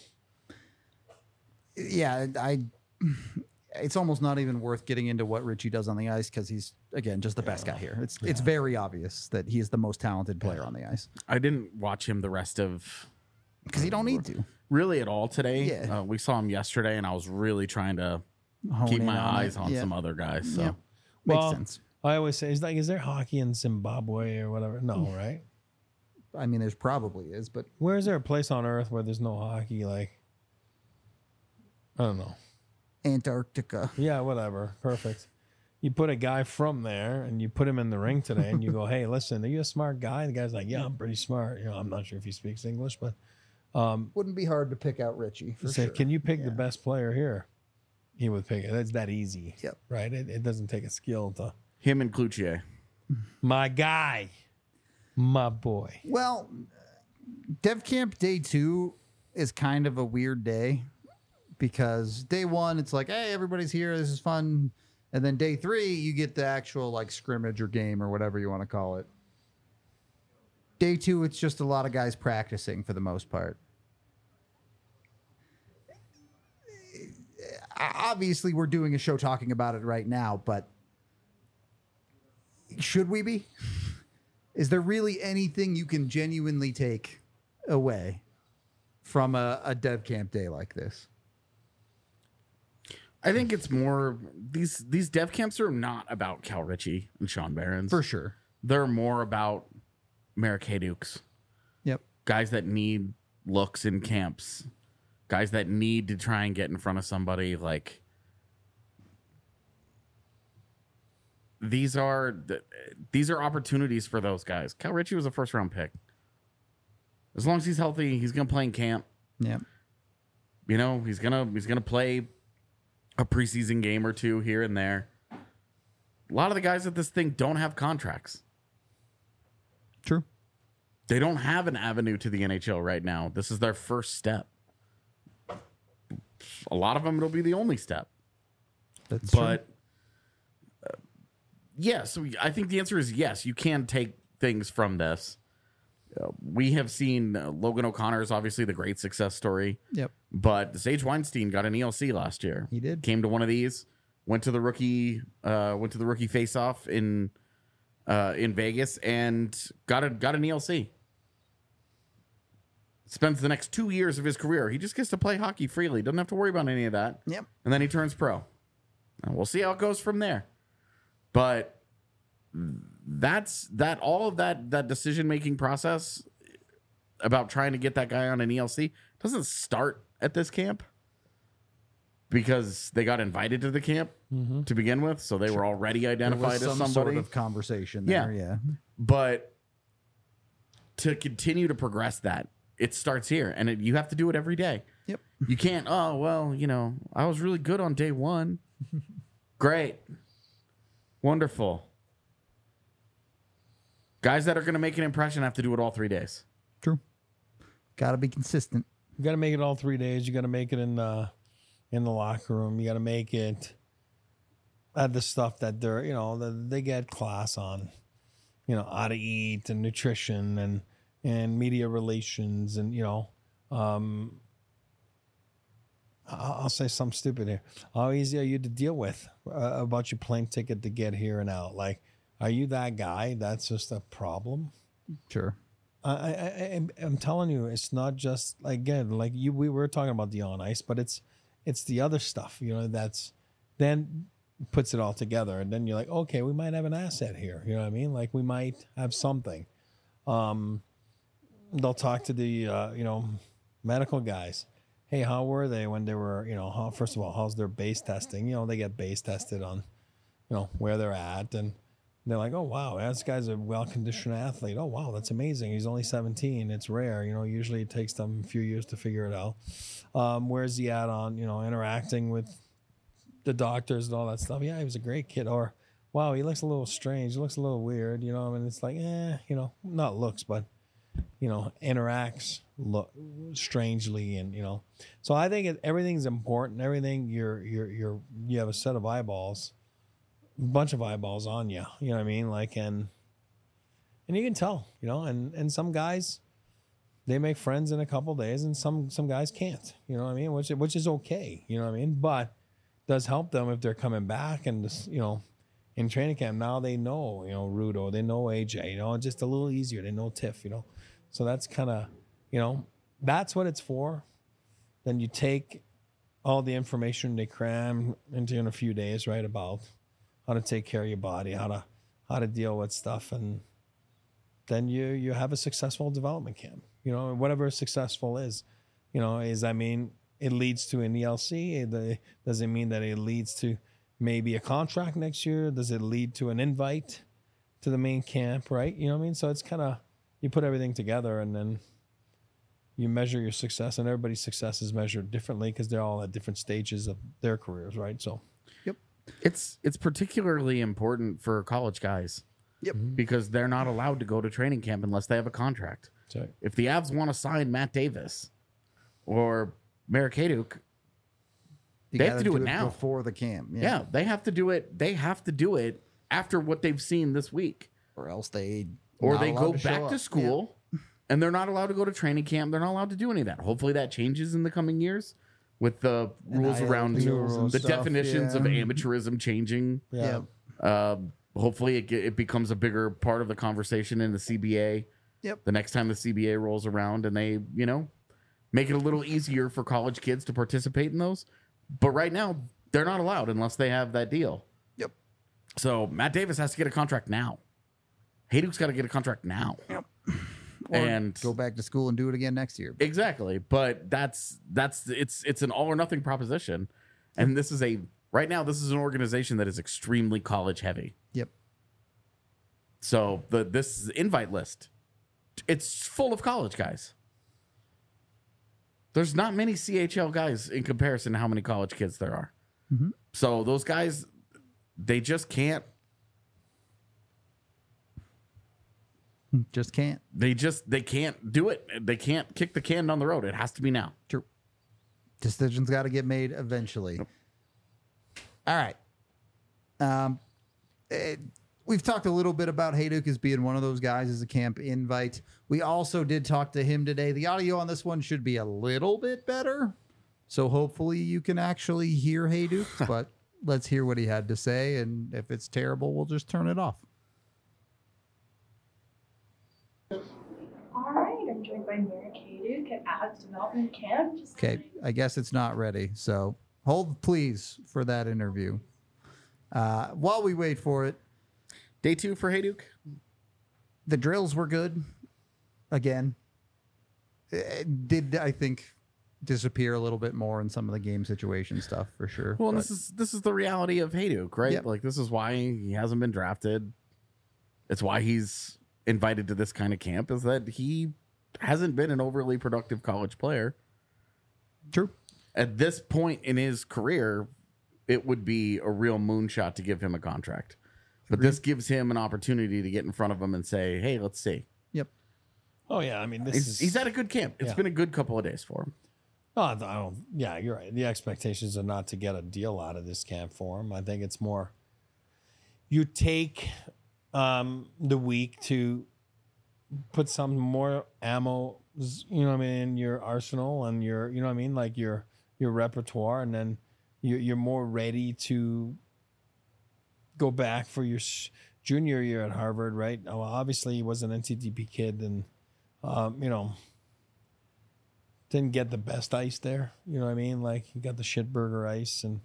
Yeah, it's almost not even worth getting into what Richie does on the ice, because he's, again, just the best guy here. It's very obvious that he is the most talented player on the ice. I didn't watch him the rest of... Because you don't need to. Really at all today. Yeah. We saw him yesterday, and I was really trying to keep my eyes on some other guys. So Makes sense. I always say, is there hockey in Zimbabwe or whatever? No, right? I mean, there's probably is, but... Where is there a place on Earth where there's no hockey? Like, I don't know. Antarctica. Yeah, whatever. Perfect. You put a guy from there and you put him in the ring today and you go, hey, listen, are you a smart guy? The guy's like, yeah, I'm pretty smart. I'm not sure if he speaks English, but... wouldn't be hard to pick out Richie, for say, sure. Can you pick the best player here? He would pick it. It's that easy. Yep. Right? It doesn't take a skill to... Him and Cloutier. My guy. My boy. Well, Dev Camp Day 2 is kind of a weird day, because day 1, it's like, hey, everybody's here. This is fun. And then day 3, you get the actual like scrimmage or game or whatever you want to call it. Day 2, it's just a lot of guys practicing for the most part. Obviously, we're doing a show talking about it right now, but should we be? Is there really anything you can genuinely take away from a Dev Camp Day like this? I think it's more, these Dev Camps are not about Cal Ritchie and Sean Barons. For sure. They're more about Marek Haydukes. Yep. Guys that need looks in camps. Guys that need to try and get in front of somebody. Like, these are opportunities for those guys. Cal Ritchie was a first-round pick. As long as he's healthy, he's going to play in camp. Yeah. He's gonna play a preseason game or two here and there. A lot of the guys at this thing don't have contracts. True. They don't have an avenue to the NHL right now. This is their first step. A lot of them, it'll be the only step. That's but yes, I think the answer is yes. You can take things from this. We have seen Logan O'Connor is obviously the great success story. Yep. But Sage Weinstein got an ELC last year. He did. Came to one of these, went to the rookie face-off in Vegas and got an ELC. Spends the next 2 years of his career. He just gets to play hockey freely. Doesn't have to worry about any of that. Yep. And then he turns pro. And we'll see how it goes from there. But all of that decision-making process about trying to get that guy on an ELC doesn't start at this camp because they got invited to the camp to begin with. So they were already identified as somebody. Sort of conversation there. Yeah. But to continue to progress that, it starts here, and you have to do it every day. Yep. You can't, I was really good on day one. Great. Wonderful. Guys that are going to make an impression have to do it all 3 days. True. Got to be consistent. You got to make it all 3 days. You got to make it in the locker room. You got to make it at the stuff that they're, they get class on, how to eat and nutrition and media relations and, I'll say something stupid here. How easy are you to deal with about your plane ticket to get here and out? Like, are you that guy that's just a problem? Sure. I'm telling you, it's not just, again, like we were talking about the on ice, but it's the other stuff, that's then puts it all together. And then you're like, okay, we might have an asset here. You know what I mean? Like we might have something. They'll talk to the, medical guys. Hey, how were they when they were, first of all, how's their base testing? They get base tested on, where they're at. And they're like, oh, wow, this guy's a well-conditioned athlete. Oh, wow, that's amazing. He's only 17. It's rare. Usually it takes them a few years to figure it out. Where's he at on, interacting with the doctors and all that stuff? Yeah, he was a great kid. Or, wow, he looks a little strange. He looks a little weird, and it's like, not looks, but, interacts strangely. And, so I think everything's important. Everything you have a set of eyeballs. Bunch of eyeballs on you, you know what I mean? Like, and you can tell, and some guys, they make friends in a couple of days and some guys can't, you know what I mean? Which is okay, you know what I mean? But does help them if they're coming back and just, in training camp, now they know, Rudo, they know AJ, just a little easier. They know Tiff, so that's kind of, that's what it's for. Then you take all the information they cram into in a few days, right? About how to take care of your body, how to deal with stuff, and then you have a successful development camp. Whatever successful is, it leads to an ELC. Does it mean that it leads to maybe a contract next year? Does it lead to an invite to the main camp, right? You know what I mean? So it's kind of, you put everything together and then you measure your success, and everybody's success is measured differently because they're all at different stages of their careers, right? So, yep. It's particularly important for college guys. Yep. Because they're not allowed to go to training camp unless they have a contract. Sorry. If the Avs want to sign Matt Davis or Marek Haduk, they have to do it now before the camp. Yeah, they have to do it. They have to do it after what they've seen this week, or else they go back to school and they're not allowed to go to training camp. They're not allowed to do any of that. Hopefully that changes in the coming years with the rules around the definitions of amateurism changing. Yeah. Hopefully it becomes a bigger part of the conversation in the CBA. Yep. The next time the CBA rolls around and they, make it a little easier for college kids to participate in those. But right now, they're not allowed unless they have that deal. Yep. So Matt Davis has to get a contract now. Hayduk's got to get a contract now. Yep. And go back to school and do it again next year. Exactly. But it's an all or nothing proposition. And right now, this is an organization that is extremely college heavy. Yep. So this invite list, it's full of college guys. There's not many CHL guys in comparison to how many college kids there are. Mm-hmm. So those guys, they just can't Just can't. They can't do it. They can't kick the can down the road. It has to be now. True. Decisions got to get made eventually. Yep. All right. We've talked a little bit about Hejduk as being one of those guys as a camp invite. We also did talk to him today. The audio on this one should be a little bit better. So hopefully you can actually hear Hejduk, but let's hear what he had to say. And if it's terrible, we'll just turn it off. All right, I'm joined by Merrick Hejduk at Avs Development Camp. Okay, I guess it's not ready. So hold, please, for that interview. While we wait for it, Day 2 for Hejduk. the drills were good. Again, it did, I think, disappear a little bit more in some of the game situation stuff for sure. Well, but this is the reality of Hejduk, right? Yep. Like, this is why he hasn't been drafted. It's why he's invited to this kind of camp, is that he hasn't been an overly productive college player. True. At this point in his career, it would be a real moonshot to give him a contract. But this gives him an opportunity to get in front of him and say, hey, let's see. Yep. Oh yeah, I mean He's at a good camp. It's been a good couple of days for him. Oh, I don't. Yeah, you're right. The expectations are not to get a deal out of this camp for him. I think it's more you take the week to put some more ammo, you know what I mean, in your arsenal and your, you know what I mean, like your repertoire, and then you're more ready to go back for your junior year at Harvard, right? Well, obviously he was an NCTP kid, and you know, didn't get the best ice there. You know what I mean? Like he got the shitburger ice, and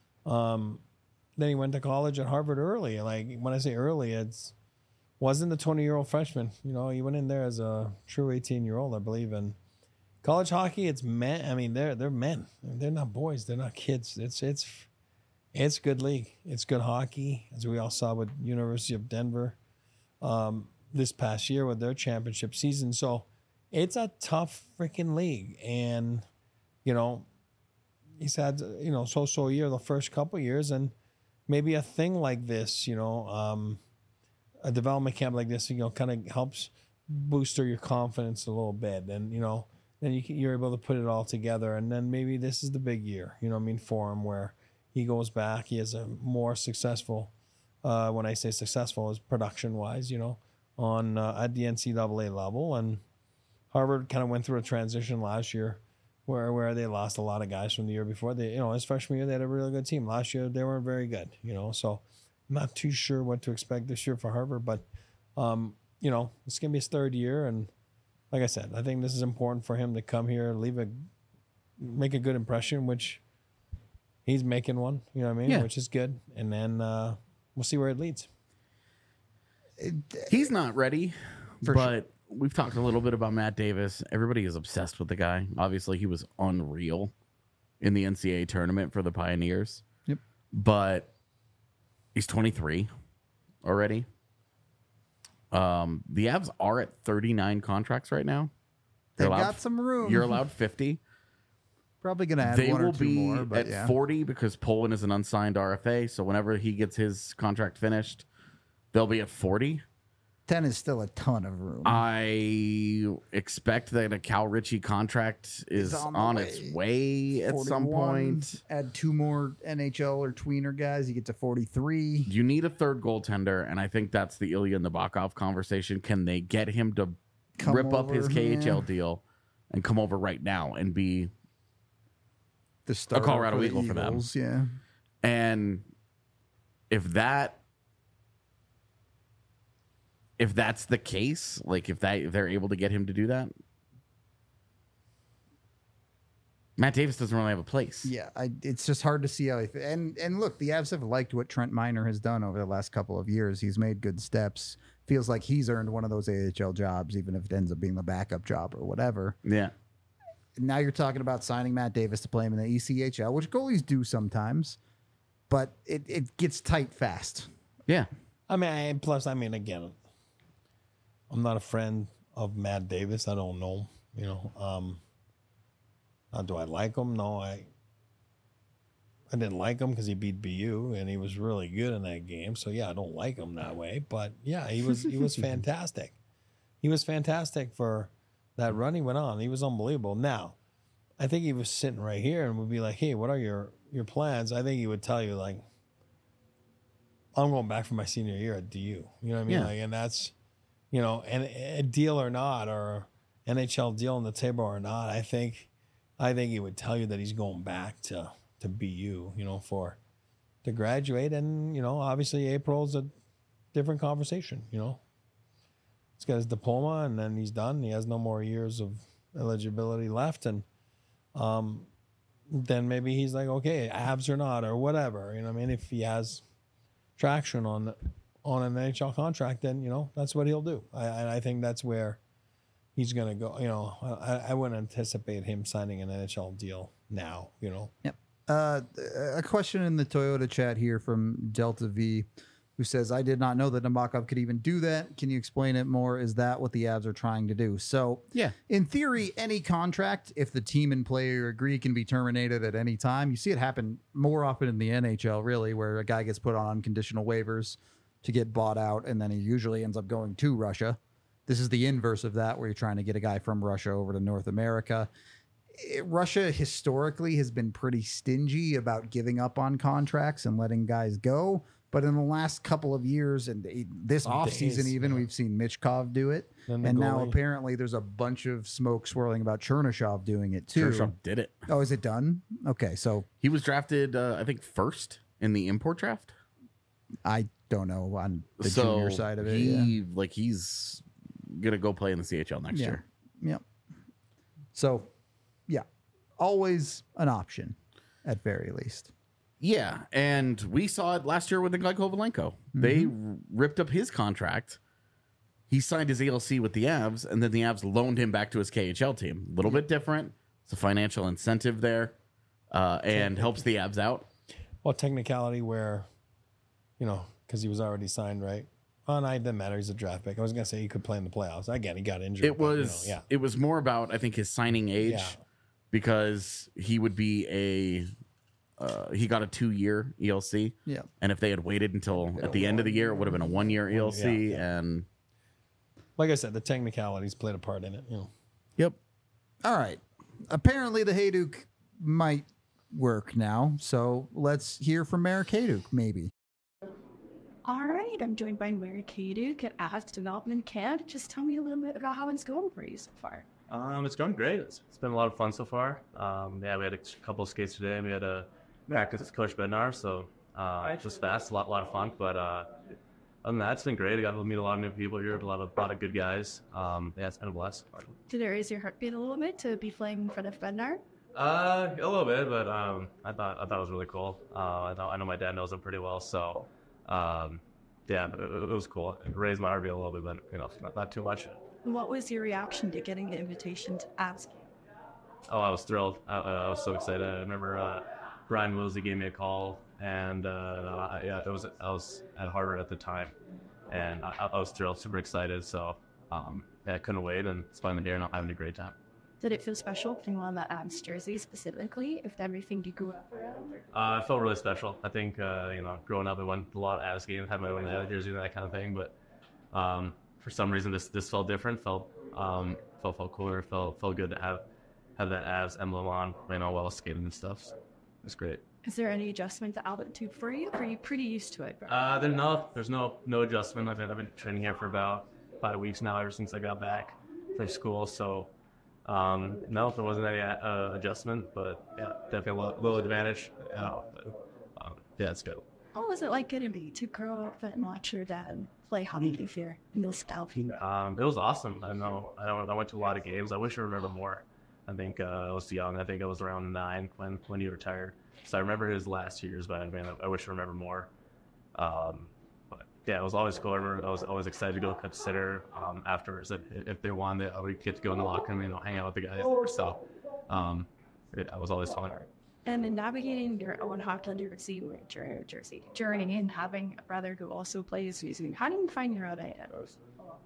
then he went to college at Harvard early. Like when I say early, wasn't a 20-year-old freshman. You know, he went in there as a true 18-year-old, I believe. And college hockey, it's men. I mean, they're men. They're not boys. They're not kids. It's good league. It's good hockey, as we all saw with University of Denver this past year with their championship season. So it's a tough freaking league. And, you know, he's had, you know, so year the first couple years, and maybe a thing like this, you know, a development camp like this, you know, kind of helps booster your confidence a little bit. And, you know, then you're able to put it all together. And then maybe this is the big year, you know what I mean, for him, where he goes back. He has a more successful, when I say successful, is production-wise, you know, on at the NCAA level. And Harvard kind of went through a transition last year where they lost a lot of guys from the year before. They, you know, his freshman year, they had a really good team. Last year, they weren't very good, you know. So I'm not too sure what to expect this year for Harvard. But, you know, it's going to be his third year. And like I said, I think this is important for him to come here, make a good impression, which he's making one, you know what I mean? Yeah. Which is good. And then we'll see where it leads. He's not ready, but we've talked a little bit about Matt Davis. Everybody is obsessed with the guy. Obviously, he was unreal in the NCAA tournament for the Pioneers. Yep. But he's 23 already. The Avs are at 39 contracts right now. They've got some room. You're allowed 50. Probably going to add They one will or two be more, but at 40 because Poland is an unsigned RFA. So whenever he gets his contract finished, they'll be at 40. 10 is still a ton of room. I expect that a Cal Ritchie contract is on its way at some point. Add two more NHL or tweener guys, you get to 43. You need a third goaltender, and I think that's the Ilya Nabokov conversation. Can they get him to rip up his KHL deal and come over right now and be The starter a Colorado for the Eagle for them? Eagles, yeah. And if that's the case, like if they're able to get him to do that, Matt Davis doesn't really have a place. Yeah, it's just hard to see how. And look, the Avs have liked what Trent Miner has done over the last couple of years. He's made good steps. Feels like he's earned one of those AHL jobs, even if it ends up being the backup job or whatever. Yeah. Now you're talking about signing Matt Davis to play him in the ECHL, which goalies do sometimes, but it gets tight fast. Yeah. I mean, again, I'm not a friend of Matt Davis. I don't know, you know. Do I like him? No, I didn't like him because he beat BU and he was really good in that game. So yeah, I don't like him that way. But yeah, he was fantastic. he was fantastic for that run he went on. He was unbelievable. Now, I think he was sitting right here and would be like, hey, what are your plans? I think he would tell you, like, I'm going back for my senior year at DU. You know what I mean? Yeah. Like, and that's, you know, and a deal or not, or NHL deal on the table or not, I think he would tell you that he's going back to BU, you know, to graduate. And, you know, obviously April's a different conversation, you know. He's got his diploma and then he's done. He has no more years of eligibility left. And then maybe he's like, okay, abs or not, or whatever. You know what I mean? If he has traction on an NHL contract, then, you know, that's what he'll do. I think that's where he's going to go. You know, I wouldn't anticipate him signing an NHL deal now, you know. Yep. A question in the Toyota chat here from Delta V, who says, I did not know that Nabokov could even do that. Can you explain it more? Is that what the Avs are trying to do? So, yeah, in theory, any contract, if the team and player agree, can be terminated at any time. You see it happen more often in the NHL, really, where a guy gets put on unconditional waivers to get bought out, and then he usually ends up going to Russia. This is the inverse of that, where you're trying to get a guy from Russia over to North America. Russia historically has been pretty stingy about giving up on contracts and letting guys go. But in the last couple of years, and this offseason even, we've seen Michkov do it. And now apparently there's a bunch of smoke swirling about Chernyshov doing it too. Chernyshov did it. Oh, is it done? Okay, so he was drafted, I think, first in the import draft. I don't know on the junior side of it. He's gonna go play in the CHL next year. Yep. So, yeah, always an option at very least. Yeah, and we saw it last year with Nikolai Kovalenko. They ripped up his contract. He signed his ALC with the Avs, and then the Avs loaned him back to his KHL team. A little bit different. It's a financial incentive there, and helps the Avs out. Well, technicality where, you know, because he was already signed, right? Oh, no, it didn't matter. He's a draft pick. I was going to say he could play in the playoffs. Again, he got injured. It was, it was more about, I think, his signing age, because he would be he got a 2-year ELC. Yeah. And if they had waited until at the end of the year, it would have been a 1-year ELC. And like I said, the technicalities played a part in it. You know. Yep. All right. Apparently the Hayduk might work now. So let's hear from Marek Hayduk, maybe. All right. I'm joined by Marek Hayduk at Avs Development Camp. Just tell me a little bit about how it's going for you so far. It's going great. It's been a lot of fun so far. We had a couple of skates today. We had because it's Coach Bednar, so it's just fast, a lot of fun. But other than that, it's been great. I got to meet a lot of new people here, a lot of good guys. It's been a blast. Did it raise your heartbeat a little bit to be playing in front of Bednar? A little bit, but I thought it was really cool. I know my dad knows him pretty well, so it was cool. It raised my heartbeat a little bit, but not too much. What was your reaction to getting the invitation to Avs? Oh, I was thrilled. I was so excited. I remember Brian Willsey gave me a call, and I was at Harvard at the time, and I was thrilled, super excited. So I couldn't wait, and it's finally here, and I'm having a great time. Did it feel special putting on that Avs jersey specifically, if everything you grew up around? It felt really special. I think growing up, I went to a lot of Avs games, had my own jersey and that kind of thing, but for some reason this felt different, felt cooler, felt good to have that Avs emblem on, while skating and stuff. So it's great. Is there any adjustment to altitude for you? Or are you pretty used to it? There's no adjustment. I've been training here for about 5 weeks now, ever since I got back from school. So no, there wasn't any adjustment, but yeah, definitely a little advantage. It's good. What was it like getting to grow up and watch your dad play hockey here in those style? It was awesome. I went to a lot of games. I wish I remember more. I think I was young. I think I was around 9 when he retired. So I remember his last years, but I wish I remember more. But yeah, it was always cool. I was always excited to go consider afterwards. If they won, I would get to go in the locker room, hang out with the guys. So I was always fun. And in navigating your own hockey jersey journey and having a brother who also plays music, how do you find your own identity?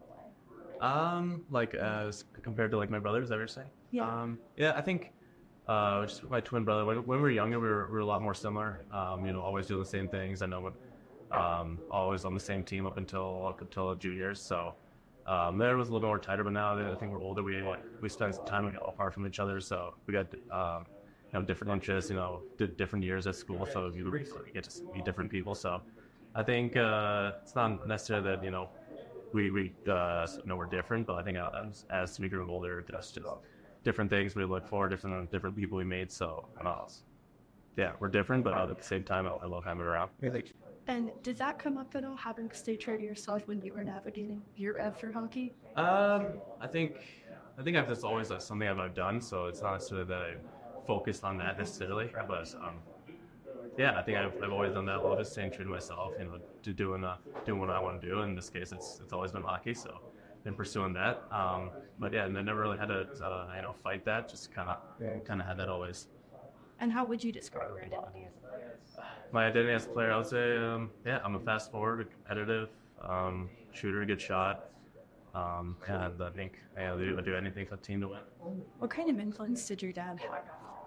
As compared to my brothers, is that what you're saying? Yeah. I think just my twin brother. When we were younger, we were a lot more similar. Always doing the same things. I know, always on the same team up until juniors. So, There was a little more tighter, but now that I think we're older, we spend some time apart from each other, so we got different interests, did different years at school, so you get to meet different people. So I think it's not necessarily that we're different, but I think as we grew older, there's just different things we look for, different people we meet. So yeah, we're different, but at the same time, I love having around. And did that come up at all, having to stay true to yourself when you were navigating year after hockey? I think that's always something I've done, so it's not necessarily that I focused on that necessarily, but yeah, I think I've always done that, a little bit, staying true to myself, to doing what I want to do. In this case, it's always been hockey, so been pursuing that. But yeah, and I never really had to fight that. Just kind of had that always. And how would you describe your identity as a player? My identity as a player, I would say, I'm a fast forward, a competitive shooter, good shot, and I think I do anything for the team to win. What kind of influence did your dad have?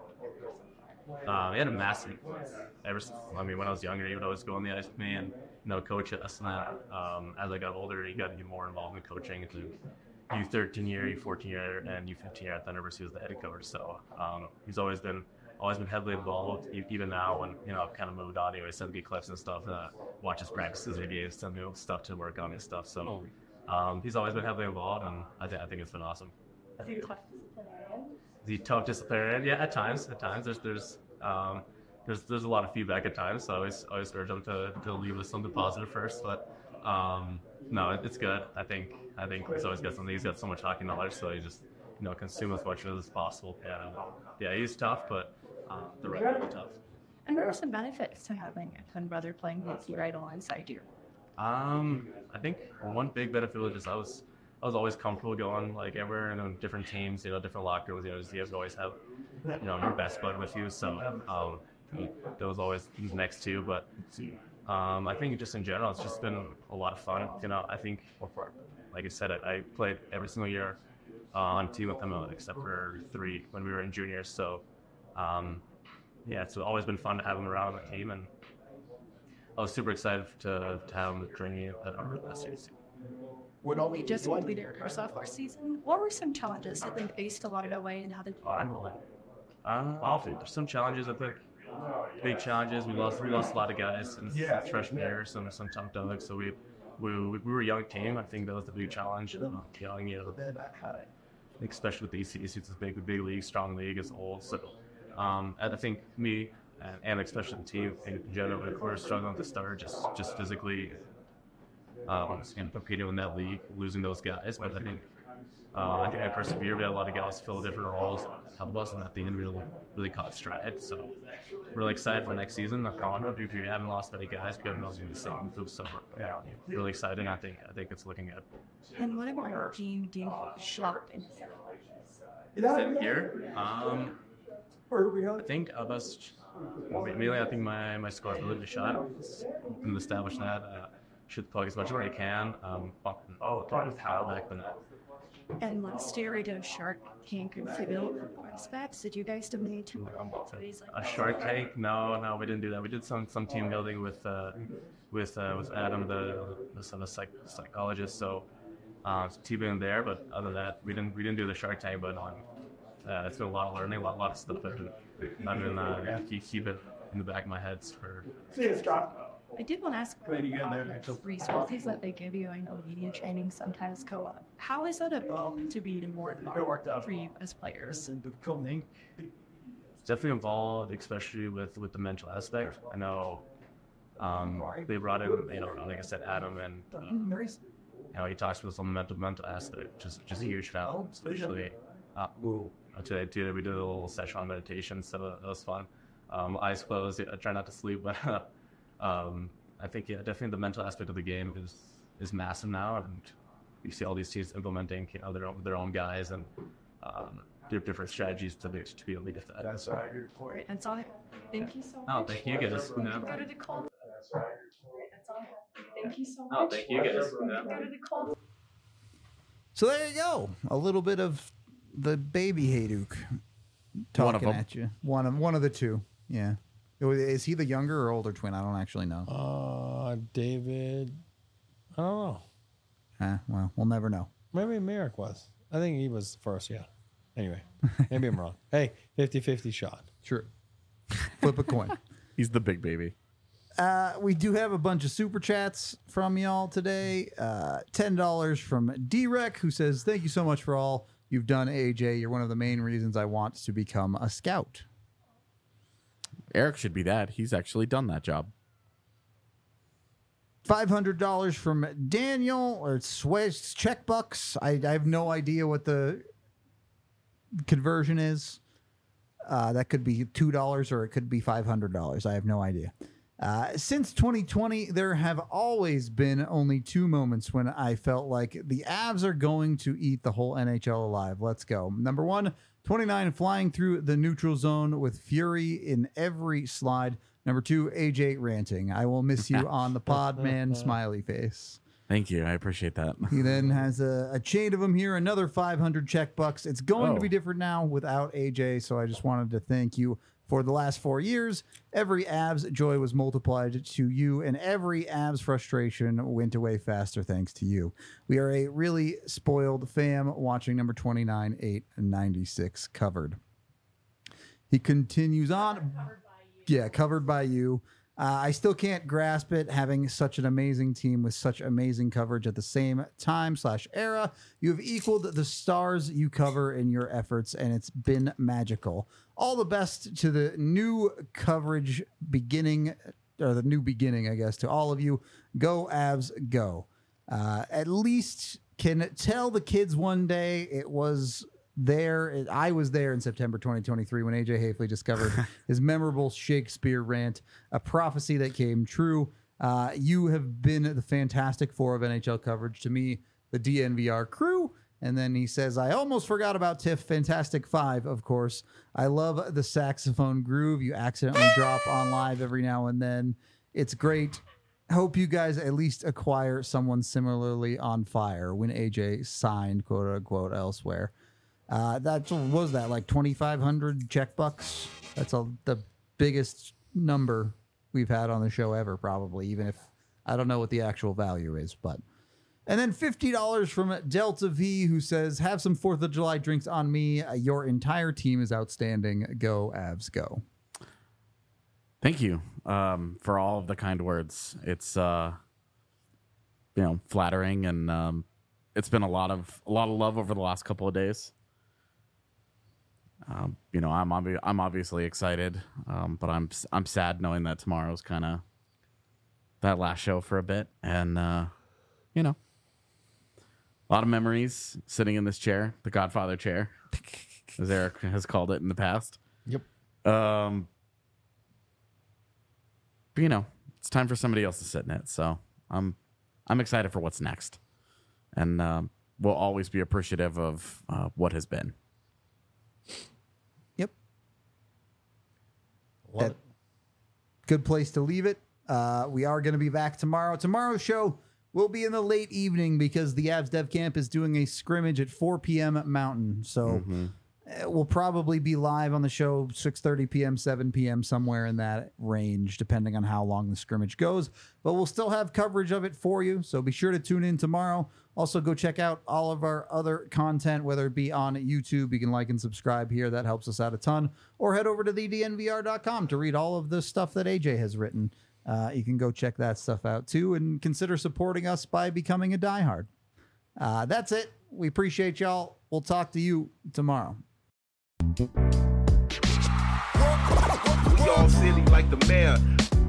He had a massive influence. When I was younger, he would always go on the ice with me and coach us. And that as I got older, he got to get more involved in coaching through U13 year, U14 year, and U15 year at Thunderbirds. He was the head coach, so he's always been heavily involved. Even now, when I've kind of moved on, he always sends me clips and stuff, watch his practices or games, send me stuff to work on and stuff. So he's always been heavily involved, and I think it's been awesome. Is he a tough disciplinarian? Is he tough disciplinarian? Yeah, at times. There's a lot of feedback at times, so I always urge him to leave with something positive first. But no, it's good. I think he's always got something. He's got so much hockey knowledge, so he just consume as much of it as possible. Yeah, he's tough, but the right way tough. And what are some benefits to having a twin brother playing with you right alongside you? I think one big benefit was just I was always comfortable going like everywhere in different teams, different locker rooms. You always have your best bud with you, so that was always next to. But I think just in general, it's just been a lot of fun. I think, like I said, I played every single year on a team with them except for 3 when we were in juniors. So yeah, it's always been fun to have them around on the team, and I was super excited to have them during the last year. We just completed our sophomore season. What were some challenges that they faced along the way, and how did you handle it? There's some challenges. I think big challenges. We lost a lot of guys in freshman year. Some tough dogs. So we were a young team. I think that was the big challenge. Young, especially with the ECC, it's a big league, strong league. It's old. So I think me and especially the team in general, we were struggling at the start, just physically. Competing in that league, losing those guys, but I think I persevered. We had a lot of guys fill different roles, help us, and at the end, really caught stride. So, really excited for next season. If you haven't lost any guys, we haven't lost the same group, so really excited. I think it's looking good. And what about your team? Do you shop in here? I think mainly I think my score is really good shot. Can establish that. Shoot the puck as much as I can. Back, but and last year we did a Shark Tank and Fiddle prospects. Did you guys donate to a Shark Tank? No, we didn't do that. We did some team building with Adam, the psychologist. So team building there, but other than that, we didn't do the Shark Tank. But it's been a lot of learning, a lot of stuff that I've been keep it in the back of my head for. I did want to ask about resources that they give you. I know media training sometimes go up. How is that evolved to be more involved for you as players? It's definitely involved, especially with the mental aspect. I know they brought in, like I said, Adam, and he talks to us on the mental aspect, just a huge help, especially today we did a little session on meditation, so that was fun. Eyes closed. I try not to sleep, but I think definitely the mental aspect of the game is massive now, and you see all these teams implementing their own guys and different strategies to be able to get that. That's right. And so thank you so much. Oh, thank you guys. Go to the call. Thank you so much. Oh, thank you guys. Go to the call. So there you go. A little bit of the baby Hayduk talking at you. One of the two. Yeah. Is he the younger or older twin? I don't actually know. David. I don't know. Well, we'll never know. Maybe Merrick was. I think he was first, yeah. Anyway, maybe I'm wrong. Hey, 50-50 shot. True. Flip a coin. He's the big baby. We do have a bunch of super chats from y'all today. $10 from D-Rec, who says, thank you so much for all you've done, AJ. You're one of the main reasons I want to become a scout. Eric should be that. He's actually done that job. $500 from Daniel, or it's check bucks. I have no idea what the conversion is. That could be $2 or it could be $500. I have no idea. Since 2020, there have always been only 2 moments when I felt like the Avs are going to eat the whole NHL alive. Let's go. Number 1, 29 flying through the neutral zone with fury in every slide. Number 2, AJ ranting. I will miss you on the pod, man. Smiley face. Thank you. I appreciate that. He then has a chain of them here. Another 500 check bucks. It's going to be different now without AJ. So I just wanted to thank you for the last 4 years. Every Avs joy was multiplied to you, and every Avs frustration went away faster thanks to you. We are a really spoiled fam watching number 29, 8, and 96 covered. He continues on. Yeah, covered by you. I still can't grasp it, having such an amazing team with such amazing coverage at the same time/era. You have equaled the stars you cover in your efforts, and it's been magical. All the best to the new coverage beginning, or the new beginning, I guess, to all of you. Go Avs, go. At least can tell the kids one day it was there. I was there in September 2023 when AJ Hafley discovered his memorable Shakespeare rant, a prophecy that came true. You have been the Fantastic Four of NHL coverage to me, the DNVR crew. And then he says, I almost forgot about Tiff, Fantastic Five, of course. I love the saxophone groove you accidentally drop on live every now and then. It's great. Hope you guys at least acquire someone similarly on fire when AJ signed, quote unquote, elsewhere. That was that like 2,500 check bucks. That's the biggest number we've had on the show ever, probably, even if I don't know what the actual value is. But and then $50 from Delta V, who says, have some 4th of July drinks on me. Your entire team is outstanding. Go Avs, go. Thank you for all of the kind words. It's flattering, and it's been a lot of love over the last couple of days. I'm obviously excited, but I'm sad knowing that tomorrow's kind of that last show for a bit, and a lot of memories sitting in this chair, the Godfather chair, as Eric has called it in the past. Yep. But, it's time for somebody else to sit in it, so I'm excited for what's next, and we'll always be appreciative of what has been. Yep. Good place to leave it. We are going to be back tomorrow. Tomorrow's show will be in the late evening because the Avs Dev Camp is doing a scrimmage at 4 p.m. Mountain. So we'll probably be live on the show 6:30 p.m., 7 p.m., somewhere in that range, depending on how long the scrimmage goes. But we'll still have coverage of it for you. So be sure to tune in tomorrow. Also, go check out all of our other content, whether it be on YouTube. You can like and subscribe here. That helps us out a ton. Or head over to thednvr.com to read all of the stuff that AJ has written. You can go check that stuff out, too, and consider supporting us by becoming a diehard. That's it. We appreciate y'all. We'll talk to you tomorrow. We all silly like the mayor.